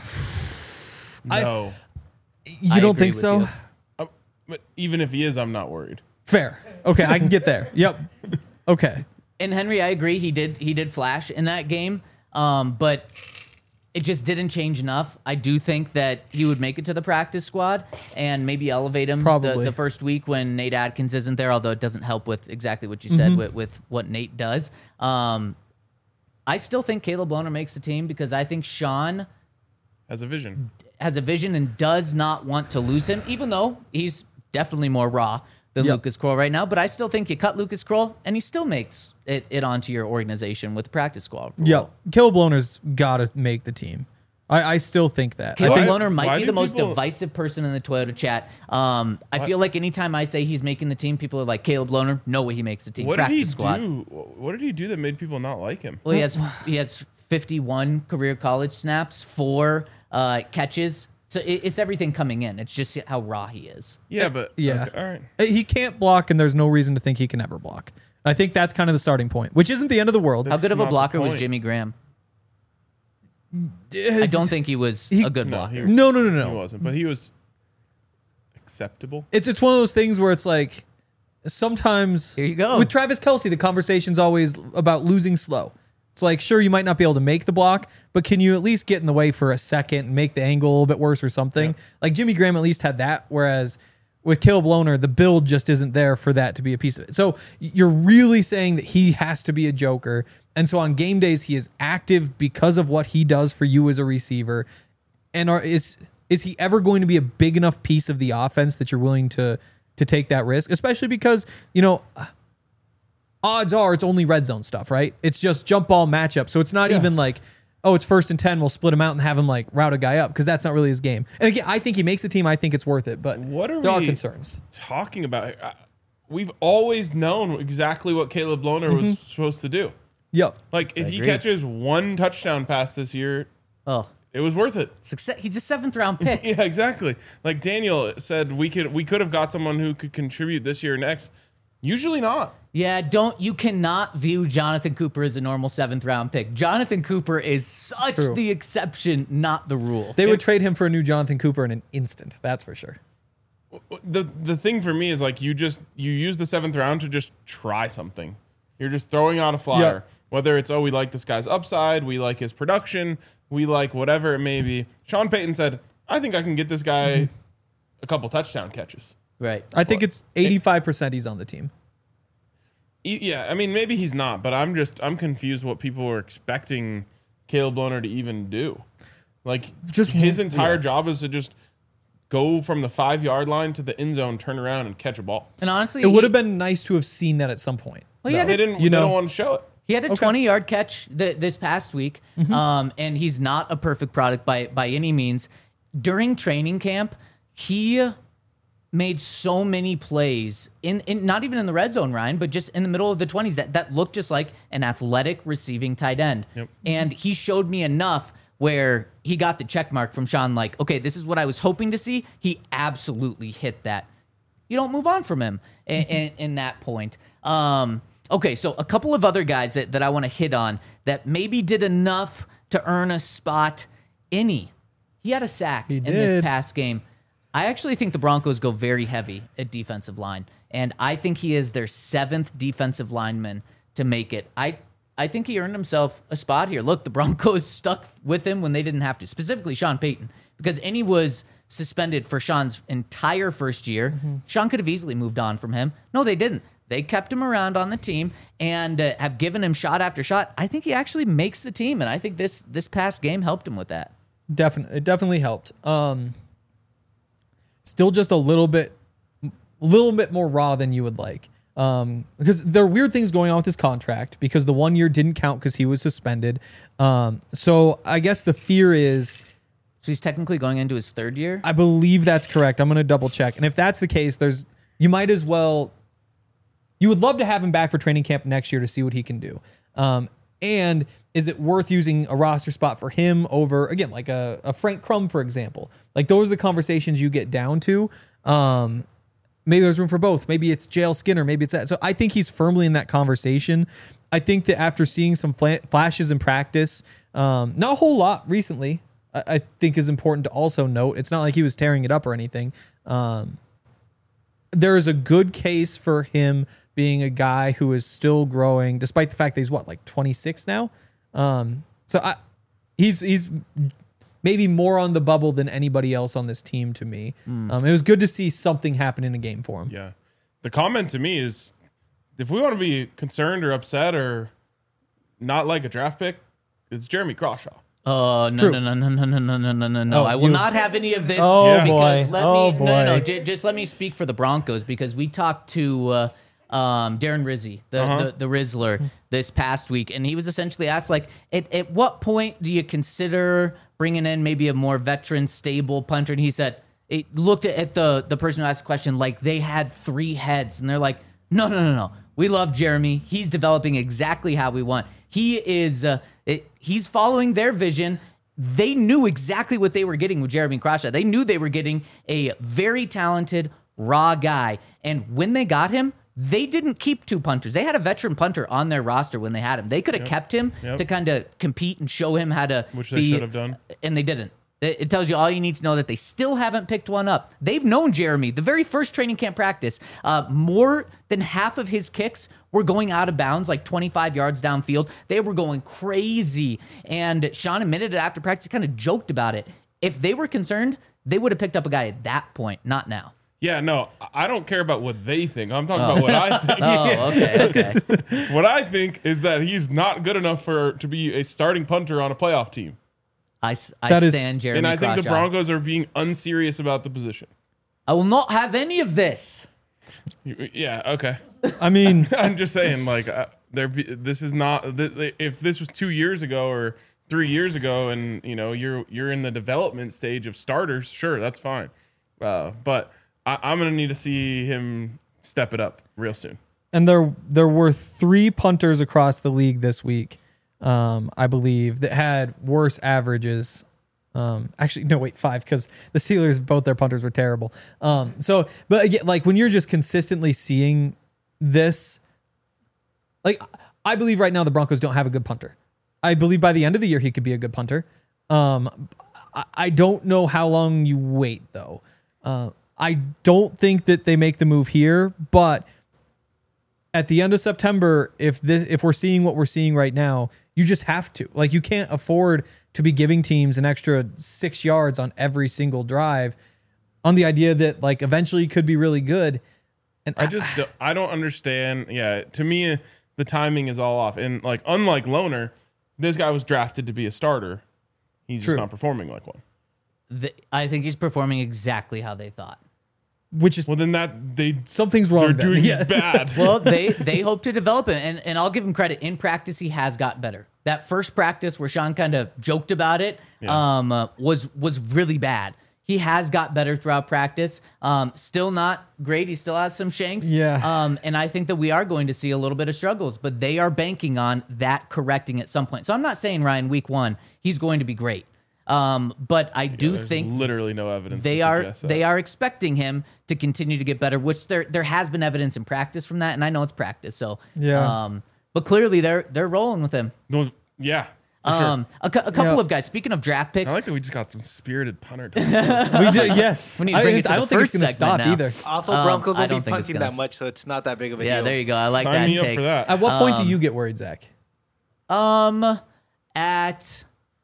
No. You I don't agree think with so? you. Uh, but even if he is, I'm not worried. Fair. Okay, I can get there. Yep. Okay. And Henry, I agree. He did he did flash in that game, um, but it just didn't change enough. I do think that he would make it to the practice squad and maybe elevate him the, Probably. the first week when Nate Adkins isn't there, although it doesn't help with exactly what you said Mm-hmm. with, with what Nate does. Um, I still think Caleb Lohner makes the team because I think Sean Has a vision. has a vision and does not want to lose him, even though he's definitely more raw than Yep. Lucas Kroll right now. But I still think you cut Lucas Kroll and he still makes it, it onto your organization with the practice squad. role. Yep. Caleb Lohner's got to make the team. I, I still think that. I Caleb think, Lohner might why be do the most people- divisive person in the Toyota chat. Um, I feel like anytime I say he's making the team, people are like, Caleb Lohner, no way he makes the team. What did Practice he squad. do? What did he do that made people not like him? Well, he has he has fifty-one career college snaps, four uh, catches. So it, it's everything coming in. It's just how raw he is. Yeah, but yeah. okay, all right. He can't block, and there's no reason to think he can ever block. I think that's kind of the starting point, which isn't the end of the world. How good of a not the blocker was point. Jimmy Graham? I don't think he was He- a good No, blocker. he- No, no, no, He no. wasn't, but he was acceptable. It's it's one of those things where it's like sometimes Here you go. with Travis Kelce, the conversation's always about losing slow. It's like, sure, you might not be able to make the block, but can you at least get in the way for a second and make the angle a little bit worse or something? Like Jimmy Graham at least had that, whereas with Caleb Lohner, the build just isn't there for that to be a piece of it. So you're really saying that he has to be a joker. And so on game days, he is active because of what he does for you as a receiver. And are, is is he ever going to be a big enough piece of the offense that you're willing to to take that risk? Especially because, you know, odds are it's only red zone stuff, right? It's just jump ball matchup. So it's not even like, oh, it's first and ten, we'll split him out and have him like route a guy up, because that's not really his game. And again, I think he makes the team. I think it's worth it, but What are there are we concerns. talking about? Uh, We've always known exactly what Caleb Lohner Mm-hmm. was supposed to do. Yep. Like if he agree. catches one touchdown pass this year, Oh, it was worth it. success. He's a seventh round pick. Yeah, exactly. Like Daniel said, we could we could have got someone who could contribute this year or next. Usually not. Yeah, don't you cannot view Jonathan Cooper as a normal seventh round pick. Jonathan Cooper is such True. the exception, not the rule. They would trade him for a new Jonathan Cooper in an instant. That's for sure. The the thing for me is like you just you use the seventh round to just try something. You're just throwing out a flyer. Yeah. Whether it's, oh, we like this guy's upside, we like his production, we like whatever it may be. Sean Payton said, I think I can get this guy Mm-hmm. a couple touchdown catches. Right. I think it's eighty-five percent he's on the team. E- Yeah, I mean, maybe he's not, but I'm just, I'm confused what people were expecting Caleb Lohner to even do. Like, Just- his entire yeah. job is to just go from the five yard line to the end zone, turn around, and catch a ball. And honestly, It would he- have been nice to have seen that at some point. Well, he had They a- didn't, You they know- don't want to show it. He had a twenty-yard catch th- this past week, um, and he's not a perfect product by by any means. During training camp, he made so many plays in, in not even in the red zone, Ryan, but just in the middle of the twenties that that looked just like an athletic receiving tight end. Yep. And he showed me enough where he got the check mark from Sean, like, okay, this is what I was hoping to see. He absolutely hit that. You don't move on from him in, in, in that point. Um, okay, so a couple of other guys that, that I want to hit on that maybe did enough to earn a spot. Innie, he had a sack He in this did. past game. I actually think the Broncos go very heavy at defensive line, and I think he is their seventh defensive lineman to make it. I I think he earned himself a spot here. Look, the Broncos stuck with him when they didn't have to, specifically Sean Payton, because Innie was suspended for Sean's entire first year. Mm-hmm. Sean could have easily moved on from him. No, they didn't. They kept him around on the team and uh, have given him shot after shot. I think he actually makes the team, and I think this this past game helped him with that. Definitely, it definitely helped. Um, still just a little bit a little bit more raw than you would like. Um, because there are weird things going on with his contract because the one year didn't count because he was suspended. Um, so I guess the fear is, So he's technically going into his third year. I believe that's correct. I'm going to double check. And if that's the case, there's, you might as well, you would love to have him back for training camp next year to see what he can do. Um, and is it worth using a roster spot for him over, again, like a, a Frank Crum, for example? Like those are the conversations you get down to. Um, maybe there's room for both. Maybe it's J L Skinner. Maybe it's that. So I think he's firmly in that conversation. I think that after seeing some fla- flashes in practice, um, not a whole lot recently, I, I think is important to also note. It's not like he was tearing it up or anything. Um, there is a good case for him being a guy who is still growing, despite the fact that he's what, like twenty-six now. Um, so I, he's he's maybe more on the bubble than anybody else on this team to me. Mm. Um, it was good to see something happen in a game for him. Yeah, the comment to me is, if we want to be concerned or upset or not like a draft pick, it's Jeremy Crawshaw. Oh, no, True. no, no, no, no, no, no, no, no, no, no. Oh, I will you- not have any of this. Oh, Yeah. because boy. let Oh, me, no, no, no, boy. j- just let me speak for the Broncos because we talked to uh, um, Darren Rizzi, the, Uh-huh. the, the Rizzler, this past week, and he was essentially asked, like, at, at what point do you consider bringing in maybe a more veteran, stable punter? And he said, it looked at the, the person who asked the question like they had three heads, and they're like, no, no, no, no. We love Jeremy. He's developing exactly how we want. He is, uh, it, he's following their vision. They knew exactly what they were getting with Jeremy Crawshaw. They knew they were getting a very talented, raw guy. And when they got him, they didn't keep two punters. They had a veteran punter on their roster when they had him. They could have Yep. kept him Yep. to kind of compete and show him how to Which they be- should have done. And they didn't. It it tells you all you need to know that they still haven't picked one up. They've known Jeremy. The very first training camp practice, uh, more than half of his kicks were going out of bounds, like twenty-five yards downfield. They were going crazy. And Sean admitted it after practice. He kind of joked about it. If they were concerned, they would have picked up a guy at that point, not now. Yeah, no, I don't care about what they think. I'm talking about what I think. Oh, okay, okay. What I think is that he's not good enough for to be a starting punter on a playoff team. I, s- I That is- stand Jeremy And I think the Crawshaw. Broncos are being unserious about the position. I will not have any of this. You- Yeah, okay. I mean, I'm just saying, like, uh, there. This is not. th- th- If this was two years ago or three years ago, and you know you're you're in the development stage of starters, sure, that's fine. Uh, but I, I'm gonna need to see him step it up real soon. and there there were three punters across the league this week, um, I believe, that had worse averages. Um, actually, no, wait, five, because the Steelers, both their punters were terrible. Um, so, but again, like when you're just consistently seeing this, like I believe right now the Broncos don't have a good punter. I believe by the end of the year he could be a good punter. Um, I, I don't know how long you wait though. Uh, I don't think that they make the move here, but at the end of September, if this if we're seeing what we're seeing right now, you just have to. Like you can't afford to be giving teams an extra six yards on every single drive on the idea that like eventually you could be really good. And I just do- I don't understand. Yeah, to me, the timing is all off. And like, unlike Loner, this guy was drafted to be a starter. He's True. just not performing like one. The, I think he's performing exactly how they thought. which is Well, then that they something's wrong. they're then. doing Yeah. bad. Well, they they hope to develop it, and, and I'll give him credit. In practice, he has got better. That first practice where Sean kind of joked about it Yeah. um, uh, was was really bad. He has got better throughout practice. Um, still not great. He still has some shanks. Yeah. Um, and I think that we are going to see a little bit of struggles, but they are banking on that correcting at some point. So I'm not saying Ryan week one he's going to be great. Um, but I do There's think literally no evidence. they to are suggest that. they are expecting him to continue to get better, which there there has been evidence in practice from that, and I know it's practice. So Yeah. um, but clearly they're they're rolling with him. Those, yeah. For sure. Um, a, cou- a couple Yeah. of guys. Speaking of draft picks, I like that we just got some spirited punter. we did. Yes, We need to bring I, it to I the don't think it's first going to stop segment now. either. Also, Um, Broncos I won't don't be think it's punting gonna that much, so it's not that big of a yeah, deal. there you go. I like Sign that me up take. for that. At what point Um, do you get worried, Zach? Um, at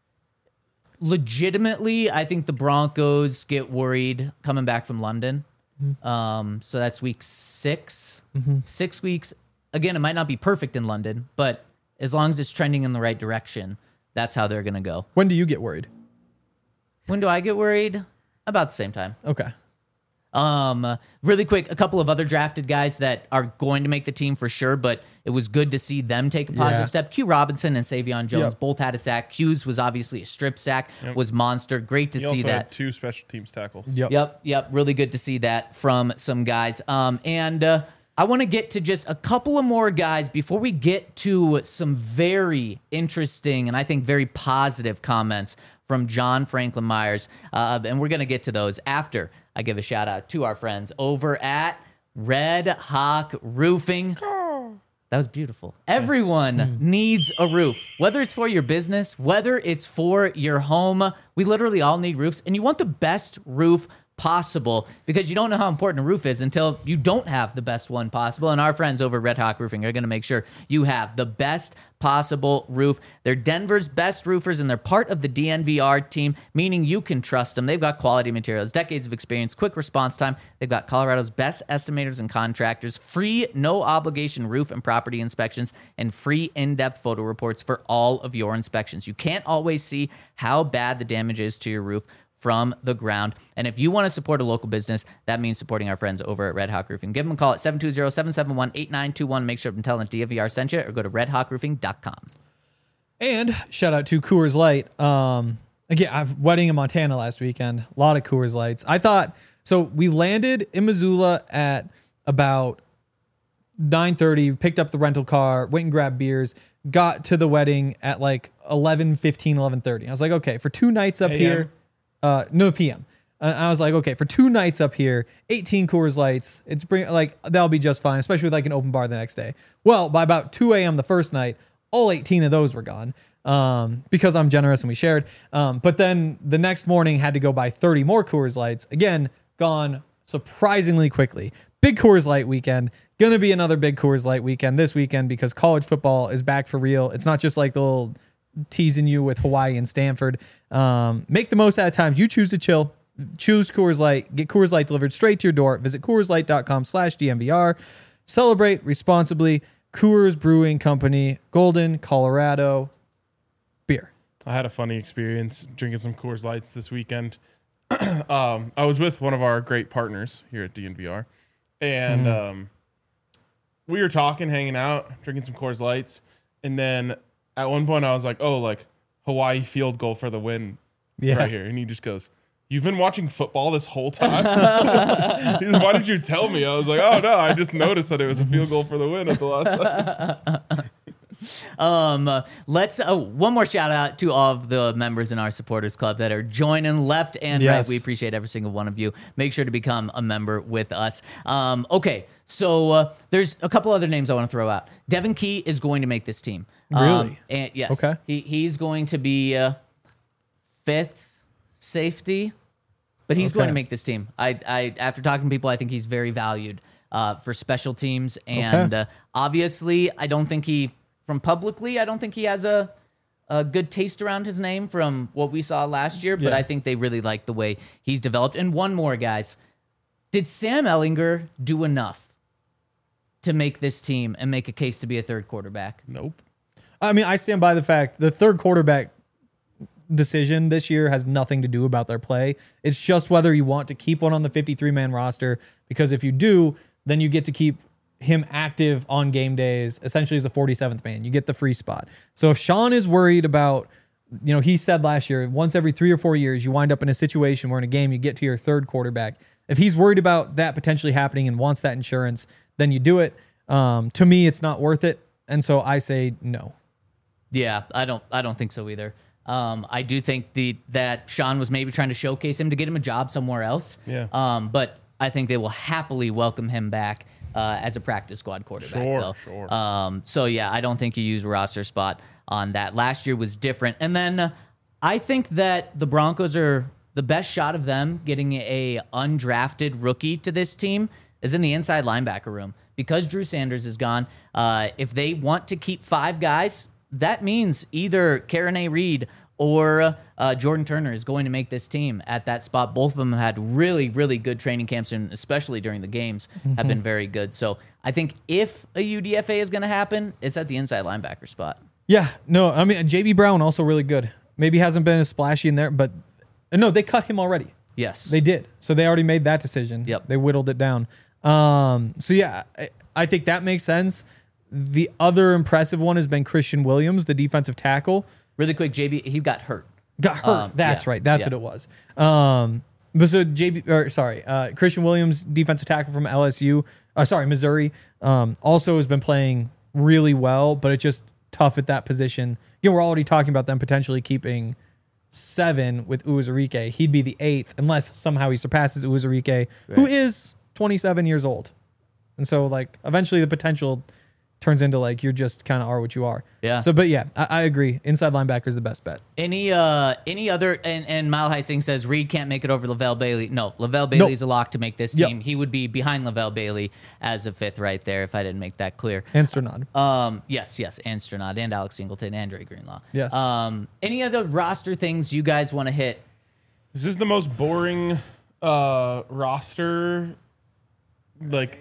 legitimately, I think the Broncos get worried coming back from London. Um, so that's week six. Six weeks. Again, it might not be perfect in London, but as long as it's trending in the right direction, that's how they're gonna go. When do you get worried? When do I get worried? About the same time. Okay. Um, really quick, a couple of other drafted guys that are going to make the team for sure, but it was good to see them take a positive Yeah. step. Q Robinson and Savion Jones Yep. both had a sack. Q's was obviously a strip sack, was monster. Great to He see also that. had two special teams tackles. Yep. Yep, yep. Really good to see that from some guys. Um, and uh, I want to get to just a couple of more guys before we get to some very interesting and I think very positive comments from John Franklin Myers. Uh, and we're going to get to those after I give a shout out to our friends over at Red Hawk Roofing. That was beautiful. Everyone needs a roof, whether it's for your business, whether it's for your home. We literally all need roofs, and you want the best roof possible because you don't know how important a roof is until you don't have the best one possible. And our friends over at Red Hawk Roofing are going to make sure you have the best possible roof. They're Denver's best roofers, and they're part of the D N V R team, meaning you can trust them. They've got quality materials, decades of experience, quick response time. They've got Colorado's best estimators and contractors, free no obligation roof and property inspections, and free in-depth photo reports for all of your inspections. You can't always see how bad the damage is to your roof from the ground. And if you want to support a local business, that means supporting our friends over at Red Hawk Roofing. Give them a call at seven two zero, seven seven one, eight nine two one. Make sure to tell them D N V R sent you, or go to red hawk roofing dot com. And shout out to Coors Light. Um, again, I've wedding in Montana last weekend. A lot of Coors Lights. I thought so. We landed in Missoula at about nine thirty. Picked up the rental car. Went and grabbed beers. Got to the wedding at like eleven fifteen, eleven thirty. I was like, okay, for two nights up A M? here. Uh, no P M. Uh, I was like, okay, for two nights up here, eighteen Coors Lights, it's bring like that'll be just fine, especially with like an open bar the next day. Well, by about two a.m. the first night, all eighteen of those were gone um, because I'm generous and we shared. Um, but then the next morning had to go buy thirty more Coors Lights. Again, gone surprisingly quickly. Big Coors Light weekend. Gonna be another big Coors Light weekend this weekend because college football is back for real. It's not just like the little teasing you with Hawaii and Stanford. Um, make the most out of times you choose to chill. Choose Coors Light. Get Coors Light delivered straight to your door. Visit Coors Light dot com slash D M V R. Celebrate responsibly. Coors Brewing Company, Golden, Colorado. Beer. I had a funny experience drinking some Coors Lights this weekend. um, I was with one of our great partners here at D N V R, and Mm-hmm. um, we were talking, hanging out, drinking some Coors Lights, and then at one point I was like, "Oh, like Hawaii field goal for the win, Yeah. right here," and he just goes, "You've been watching football this whole time?" He's like, "Why did you tell me?" I was like, "Oh no, I just noticed that it was a field goal for the win at the last second." Um, uh, let's uh, one more shout out to all of the members in our supporters club that are joining left and Yes. right. We appreciate every single one of you. Make sure to become a member with us. Um, okay, so uh, there's a couple other names I want to throw out. Devin Key is going to make this team. Um, Really? and yes. Okay. He he's going to be uh, fifth safety, but he's going Okay. to make this team. I I after talking to people, I think he's very valued uh, for special teams, and Okay. uh, obviously, I don't think he. From publicly, I don't think he has a, a good taste around his name from what we saw last year, but Yeah. I think they really like the way he's developed. And one more, guys. Did Sam Ellinger do enough to make this team and make a case to be a third quarterback? Nope. I mean, I stand by the fact the third quarterback decision this year has nothing to do about their play. It's just whether you want to keep one on the fifty-three man roster, because if you do, then you get to keep him active on game days, essentially as a forty-seventh man. You get the free spot. So if Sean is worried about, you know, he said last year, once every three or four years, you wind up in a situation where in a game you get to your third quarterback. If he's worried about that potentially happening and wants that insurance, then you do it. Um, to me, it's not worth it. And so I say no. Yeah, I don't. I don't think so either. Um, I do think the that Sean was maybe trying to showcase him to get him a job somewhere else. Yeah. Um, but I think they will happily welcome him back uh, as a practice squad quarterback. Sure, though. sure. Um, so yeah, I don't think you use a roster spot on that. Last year was different, and then uh, I think that the Broncos are the best shot of them getting a undrafted rookie to this team is in the inside linebacker room because Drew Sanders is gone. Uh, if they want to keep five guys, that means either Karen A. Reed or uh, Jordan Turner is going to make this team at that spot. Both of them have had really, really good training camps, and especially during the games, have been very good. So I think if a U D F A is going to happen, it's at the inside linebacker spot. Yeah, no, I mean, J B Brown also really good. Maybe hasn't been as splashy in there, but uh, no, they cut him already. Yes. They did. So they already made that decision. Yep. They whittled it down. Um, so yeah, I, I think that makes sense. The other impressive one has been Christian Williams, the defensive tackle. Really quick, J B, he got hurt. Got hurt. Um, That's yeah, right. That's yeah. what it was. Um, but so J B, or sorry, uh, Christian Williams, defensive tackle from L S U. Uh, sorry, Missouri. Um, also has been playing really well, but it's just tough at that position. Again, we're already talking about them potentially keeping seven with Uwazurike. He'd be the eighth unless somehow he surpasses Uwazurike, right. who is twenty-seven years old. And so, like, eventually the potential turns into, like, you're just kind of are what you are. Yeah. So, but yeah, I, I agree. Inside linebacker is the best bet. Any uh any other and, and Mile High Singh says Reed can't make it over Lavelle Bailey. No, Lavelle Bailey's nope. a lock to make this team. Yep. He would be behind Lavelle Bailey as a fifth right there if I didn't make that clear. And Sternad. Um yes, yes, and Sternad and Alex Singleton and Dre Greenlaw. Yes. Um any other roster things you guys want to hit? Is this the most boring uh roster like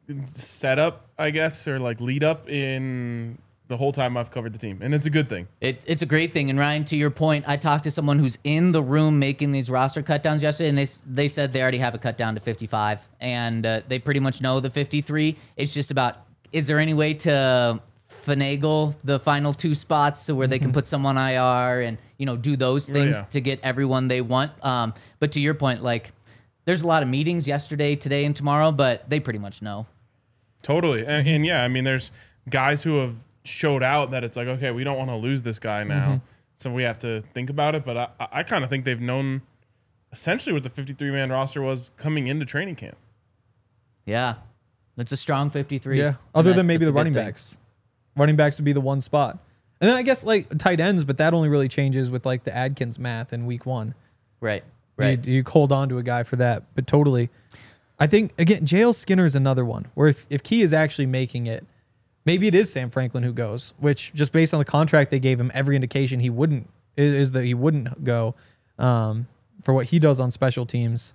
setup, I guess, or like lead up in the whole time I've covered the team, and it's a good thing. It, it's a great thing. And Ryan, to your point, I talked to someone who's in the room making these roster cutdowns yesterday, and they they said they already have a cut down to fifty-five, and uh, they pretty much know the fifty-three. It's just about, is there any way to finagle the final two spots so where they can put someone I R and, you know, do those things oh, yeah. to get everyone they want. Um, but to your point, like, there's a lot of meetings yesterday, today, and tomorrow, but they pretty much know. Totally. And, and yeah, I mean, there's guys who have showed out that it's like, okay, we don't want to lose this guy now. Mm-hmm. So we have to think about it. But I, I kind of think they've known essentially what the fifty-three man roster was coming into training camp. Yeah. It's a strong fifty-three. Yeah. Other that, than maybe the running thing. backs. Running backs would be the one spot. And then I guess like tight ends, but that only really changes with like the Adkins math in week one. Right. Right. You, you hold on to a guy for that, but totally. I think, again, J L Skinner is another one where if, if Key is actually making it, maybe it is Sam Franklin who goes, which just based on the contract they gave him, every indication he wouldn't, is, is that he wouldn't go um, for what he does on special teams.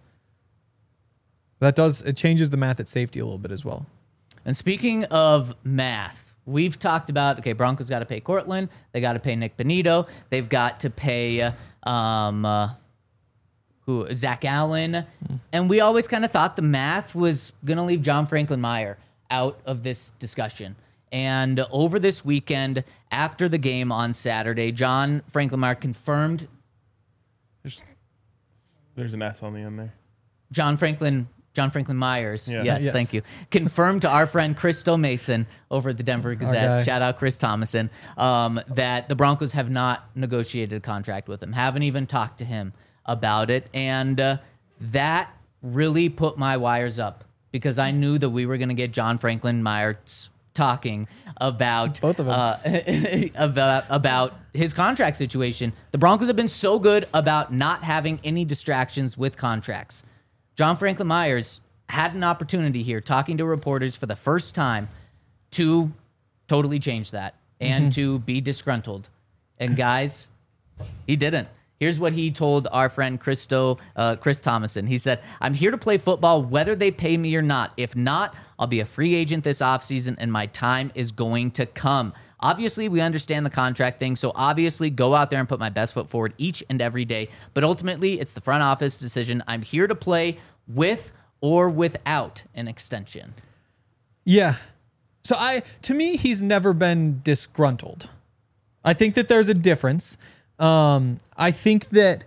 That does, it changes the math at safety a little bit as well. And speaking of math, we've talked about, okay, Broncos got to pay Cortland. They got to pay Nick Benito. They've got to pay um, uh, who Zach Allen. Mm. And we always kind of thought the math was going to leave John Franklin Meyer out of this discussion. And over this weekend, after the game on Saturday, John Franklin Meyer confirmed. There's, there's an S on the end there. John Franklin John Franklin Myers, yeah. yes, yes, thank you. Confirmed to our friend Chris Mason over at the Denver Gazette, shout out Chris Thomason, um, that the Broncos have not negotiated a contract with him, haven't even talked to him about it. And uh, that really put my wires up because I knew that we were going to get John Franklin Myers talking about both of them uh, about, about his contract situation. The Broncos have been so good about not having any distractions with contracts. John Franklin Myers had an opportunity here talking to reporters for the first time to totally change that and mm-hmm. to be disgruntled. And guys, he didn't. Here's what he told our friend Christo, uh, Chris Thomason. He said, I'm here to play football whether they pay me or not. If not, I'll be a free agent this offseason and my time is going to come. Obviously, we understand the contract thing, so obviously go out there and put my best foot forward each and every day. But ultimately, it's the front office decision. I'm here to play with or without an extension. Yeah. So I, to me, he's never been disgruntled. I think that there's a difference. Um, I think that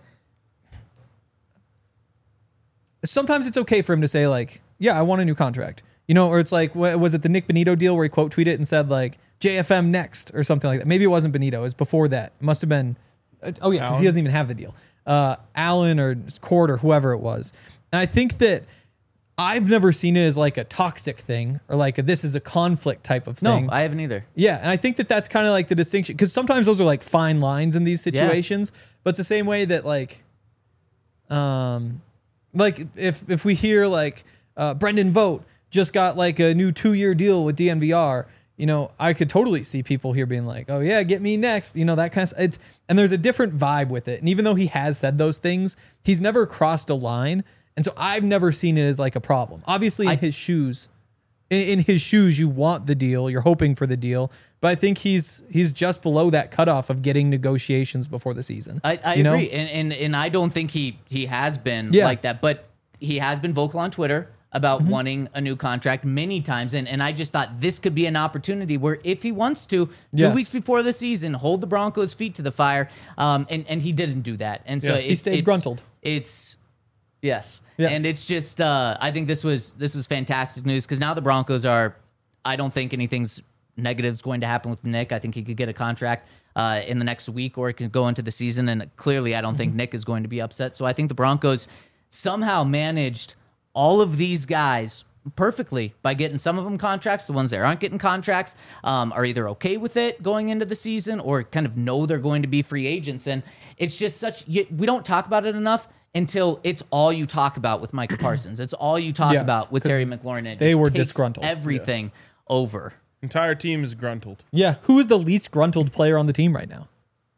sometimes it's okay for him to say like, yeah, I want a new contract, you know, or it's like, what, was it the Nick Benito deal where he quote tweeted and said like J F M next or something like that? Maybe it wasn't Benito. It was before that. It must've been, oh yeah, cause he doesn't even have the deal. Uh, Allen or Cord or whoever it was. And I think that I've never seen it as like a toxic thing or like a, this is a conflict type of thing. No, I haven't either. Yeah, and I think that that's kind of like the distinction because sometimes those are like fine lines in these situations, yeah. But it's the same way that like, um, like if if we hear like uh, Brendan Vogt just got like a new two year deal with D N V R, you know, I could totally see people here being like, oh yeah, get me next, you know, that kind of. It's and there's a different vibe with it, and even though he has said those things, he's never crossed a line. And so I've never seen it as like a problem. Obviously, in I, his shoes, in, in his shoes, you want the deal, you're hoping for the deal, but I think he's he's just below that cutoff of getting negotiations before the season. I, I you know? agree, and, and and I don't think he he has been Yeah. like that, but he has been vocal on Twitter about Mm-hmm. wanting a new contract many times, and and I just thought this could be an opportunity where if he wants to, two Yes. weeks before the season, hold the Broncos' feet to the fire, um, and and he didn't do that, and so Yeah. it, He stayed it's, gruntled. It's yes, Yes. and it's just uh, I think this was this was fantastic news because now the Broncos are. I don't think anything's negative is going to happen with Nick. I think he could get a contract uh, in the next week, or it could go into the season. And clearly, I don't think Nick is going to be upset. So I think the Broncos somehow managed all of these guys perfectly by getting some of them contracts. The ones that aren't getting contracts um, are either okay with it going into the season or kind of know they're going to be free agents. And it's just such, you- we don't talk about it enough until it's all you talk about with Micah Parsons. It's all you talk Yes, about with 'cause Terry McLaurin. And it they just were takes disgruntled. everything over. Entire team is gruntled. Yeah, who is the least gruntled player on the team right now?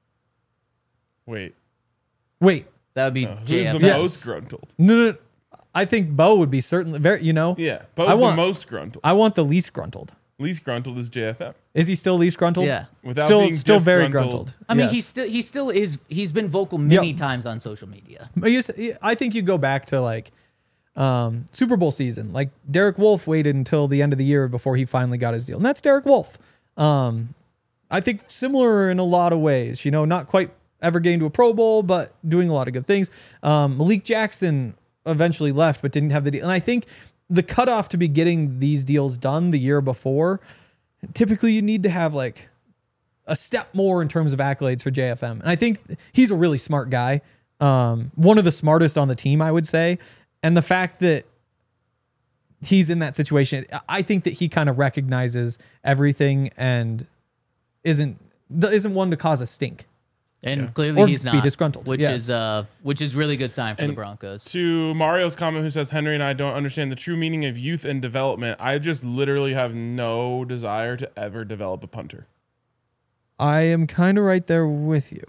Wait, Wait, That would be who's J F the S. most gruntled? no, no, no. I think Bo would be certainly very. You know, Yeah, Bo's I want- the most gruntled. I want the least gruntled. Least gruntled is J F M. Is he still least gruntled? Yeah. Without still, being still very disgruntled. gruntled. I mean, Yes. he still he still is. He's been vocal many Yep. times on social media. But you s- I think you go back to like um, Super Bowl season. Like Derek Wolfe waited until the end of the year before he finally got his deal, and that's Derek Wolfe. Um, I think similar in a lot of ways. You know, not quite ever getting to a Pro Bowl, but doing a lot of good things. Um, Malik Jackson eventually left, but didn't have the deal. And I think the cutoff to be getting these deals done the year before, typically you need to have like a step more in terms of accolades for J F M. And I think he's a really smart guy. Um, one of the smartest on the team, I would say. And the fact that he's in that situation, I think that he kind of recognizes everything and isn't isn't one to cause a stink. And clearly Or he's be not disgruntled, which yes. is uh which is really good sign for the And Broncos. To Mario's comment, who says Henry and I don't understand the true meaning of youth and development. I just literally have no desire to ever develop a punter. I am kind of right there with you.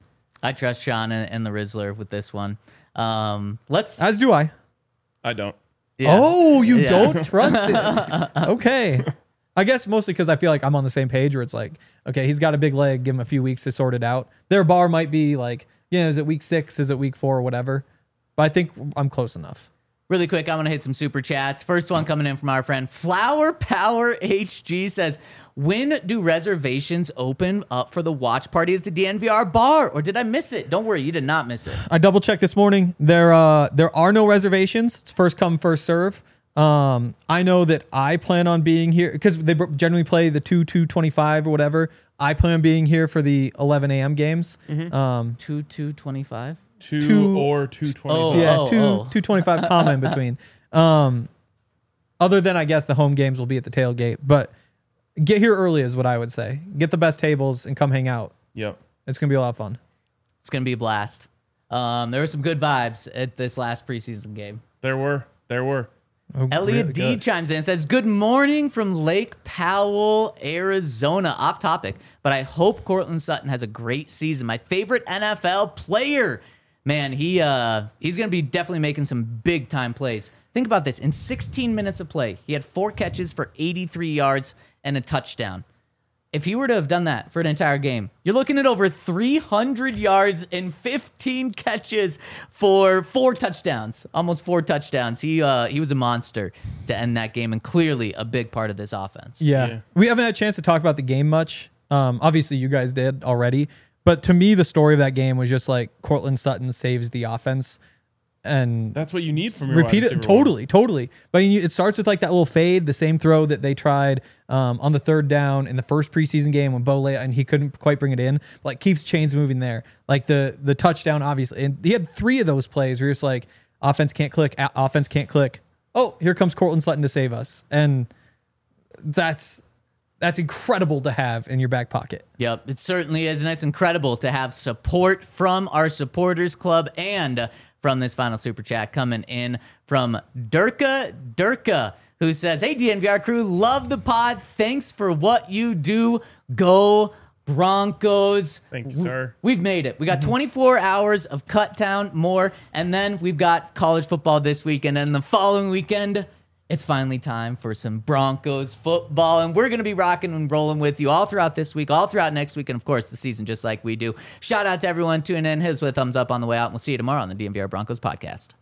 I trust Sean and, and the Rizzler with this one. Um, let's. As do I. I don't. yeah. Oh, you Yeah. don't trust it. Okay. I guess mostly because I feel like I'm on the same page where it's like, okay, he's got a big leg, give him a few weeks to sort it out. Their bar might be like, yeah, is it week six? Is it week four or whatever? But I think I'm close enough. Really quick, I'm going to hit some super chats. First one coming in from our friend Flower Power H G says, when do reservations open up for the watch party at the D N V R bar? Or did I miss it? Don't worry, you did not miss it. I double checked this morning. There, uh, there are no reservations. It's first come, first serve. Um, I know that I plan on being here because they br- generally play the two, two twenty-five or whatever. I plan on being here for the eleven a.m. games. Um, two two twenty-five Two, Two- or two twenty. Oh, yeah, oh, two, oh. two twenty-five comma in between. Um, other than I guess the home games will be at the tailgate, but get here early is what I would say. Get the best tables and come hang out. Yep. It's gonna be a lot of fun. It's going to be a blast. Um, there were some good vibes at this last preseason game. There were. There were. Oh, Elliot really D good. chimes in and says, good morning from Lake Powell, Arizona. Off topic, but I hope Cortland Sutton has a great season. My favorite N F L player. Man, he uh, he's going to be definitely making some big time plays. Think about this. In sixteen minutes of play, he had four catches for eighty-three yards and a touchdown. If he were to have done that for an entire game, you're looking at over three hundred yards and fifteen catches for four touchdowns, almost four touchdowns. He uh, he was a monster to end that game and clearly a big part of this offense. Yeah. Yeah. We haven't had a chance to talk about the game much. Um, obviously, you guys did already. But to me, the story of that game was just like Cortland Sutton saves the offense. And That's what you need from your repeat wide it. receiver Totally, totally. But you, it starts with like that little fade, the same throw that they tried um, on the third down in the first preseason game when Bo lay and he couldn't quite bring it in. Like keeps chains moving there. Like the the touchdown, obviously. And he had three of those plays where you're just like, offense can't click, a- offense can't click. Oh, here comes Cortland Sutton to save us. And that's that's incredible to have in your back pocket. Yep, it certainly is, and it's incredible to have support from our supporters club and from this final super chat coming in from Durka Durka, who says, "Hey D N V R crew, love the pod. Thanks for what you do. Go Broncos." Thank you, sir. We've made it. We got twenty-four hours of Cut Town more, and then we've got college football this week, and then the following weekend, It's finally time for some Broncos football, and we're going to be rocking and rolling with you all throughout this week, all throughout next week, and of course the season, just like we do. Shout out to everyone tuning in. Hit us with a thumbs up on the way out, and we'll see you tomorrow on the D M V R Broncos podcast.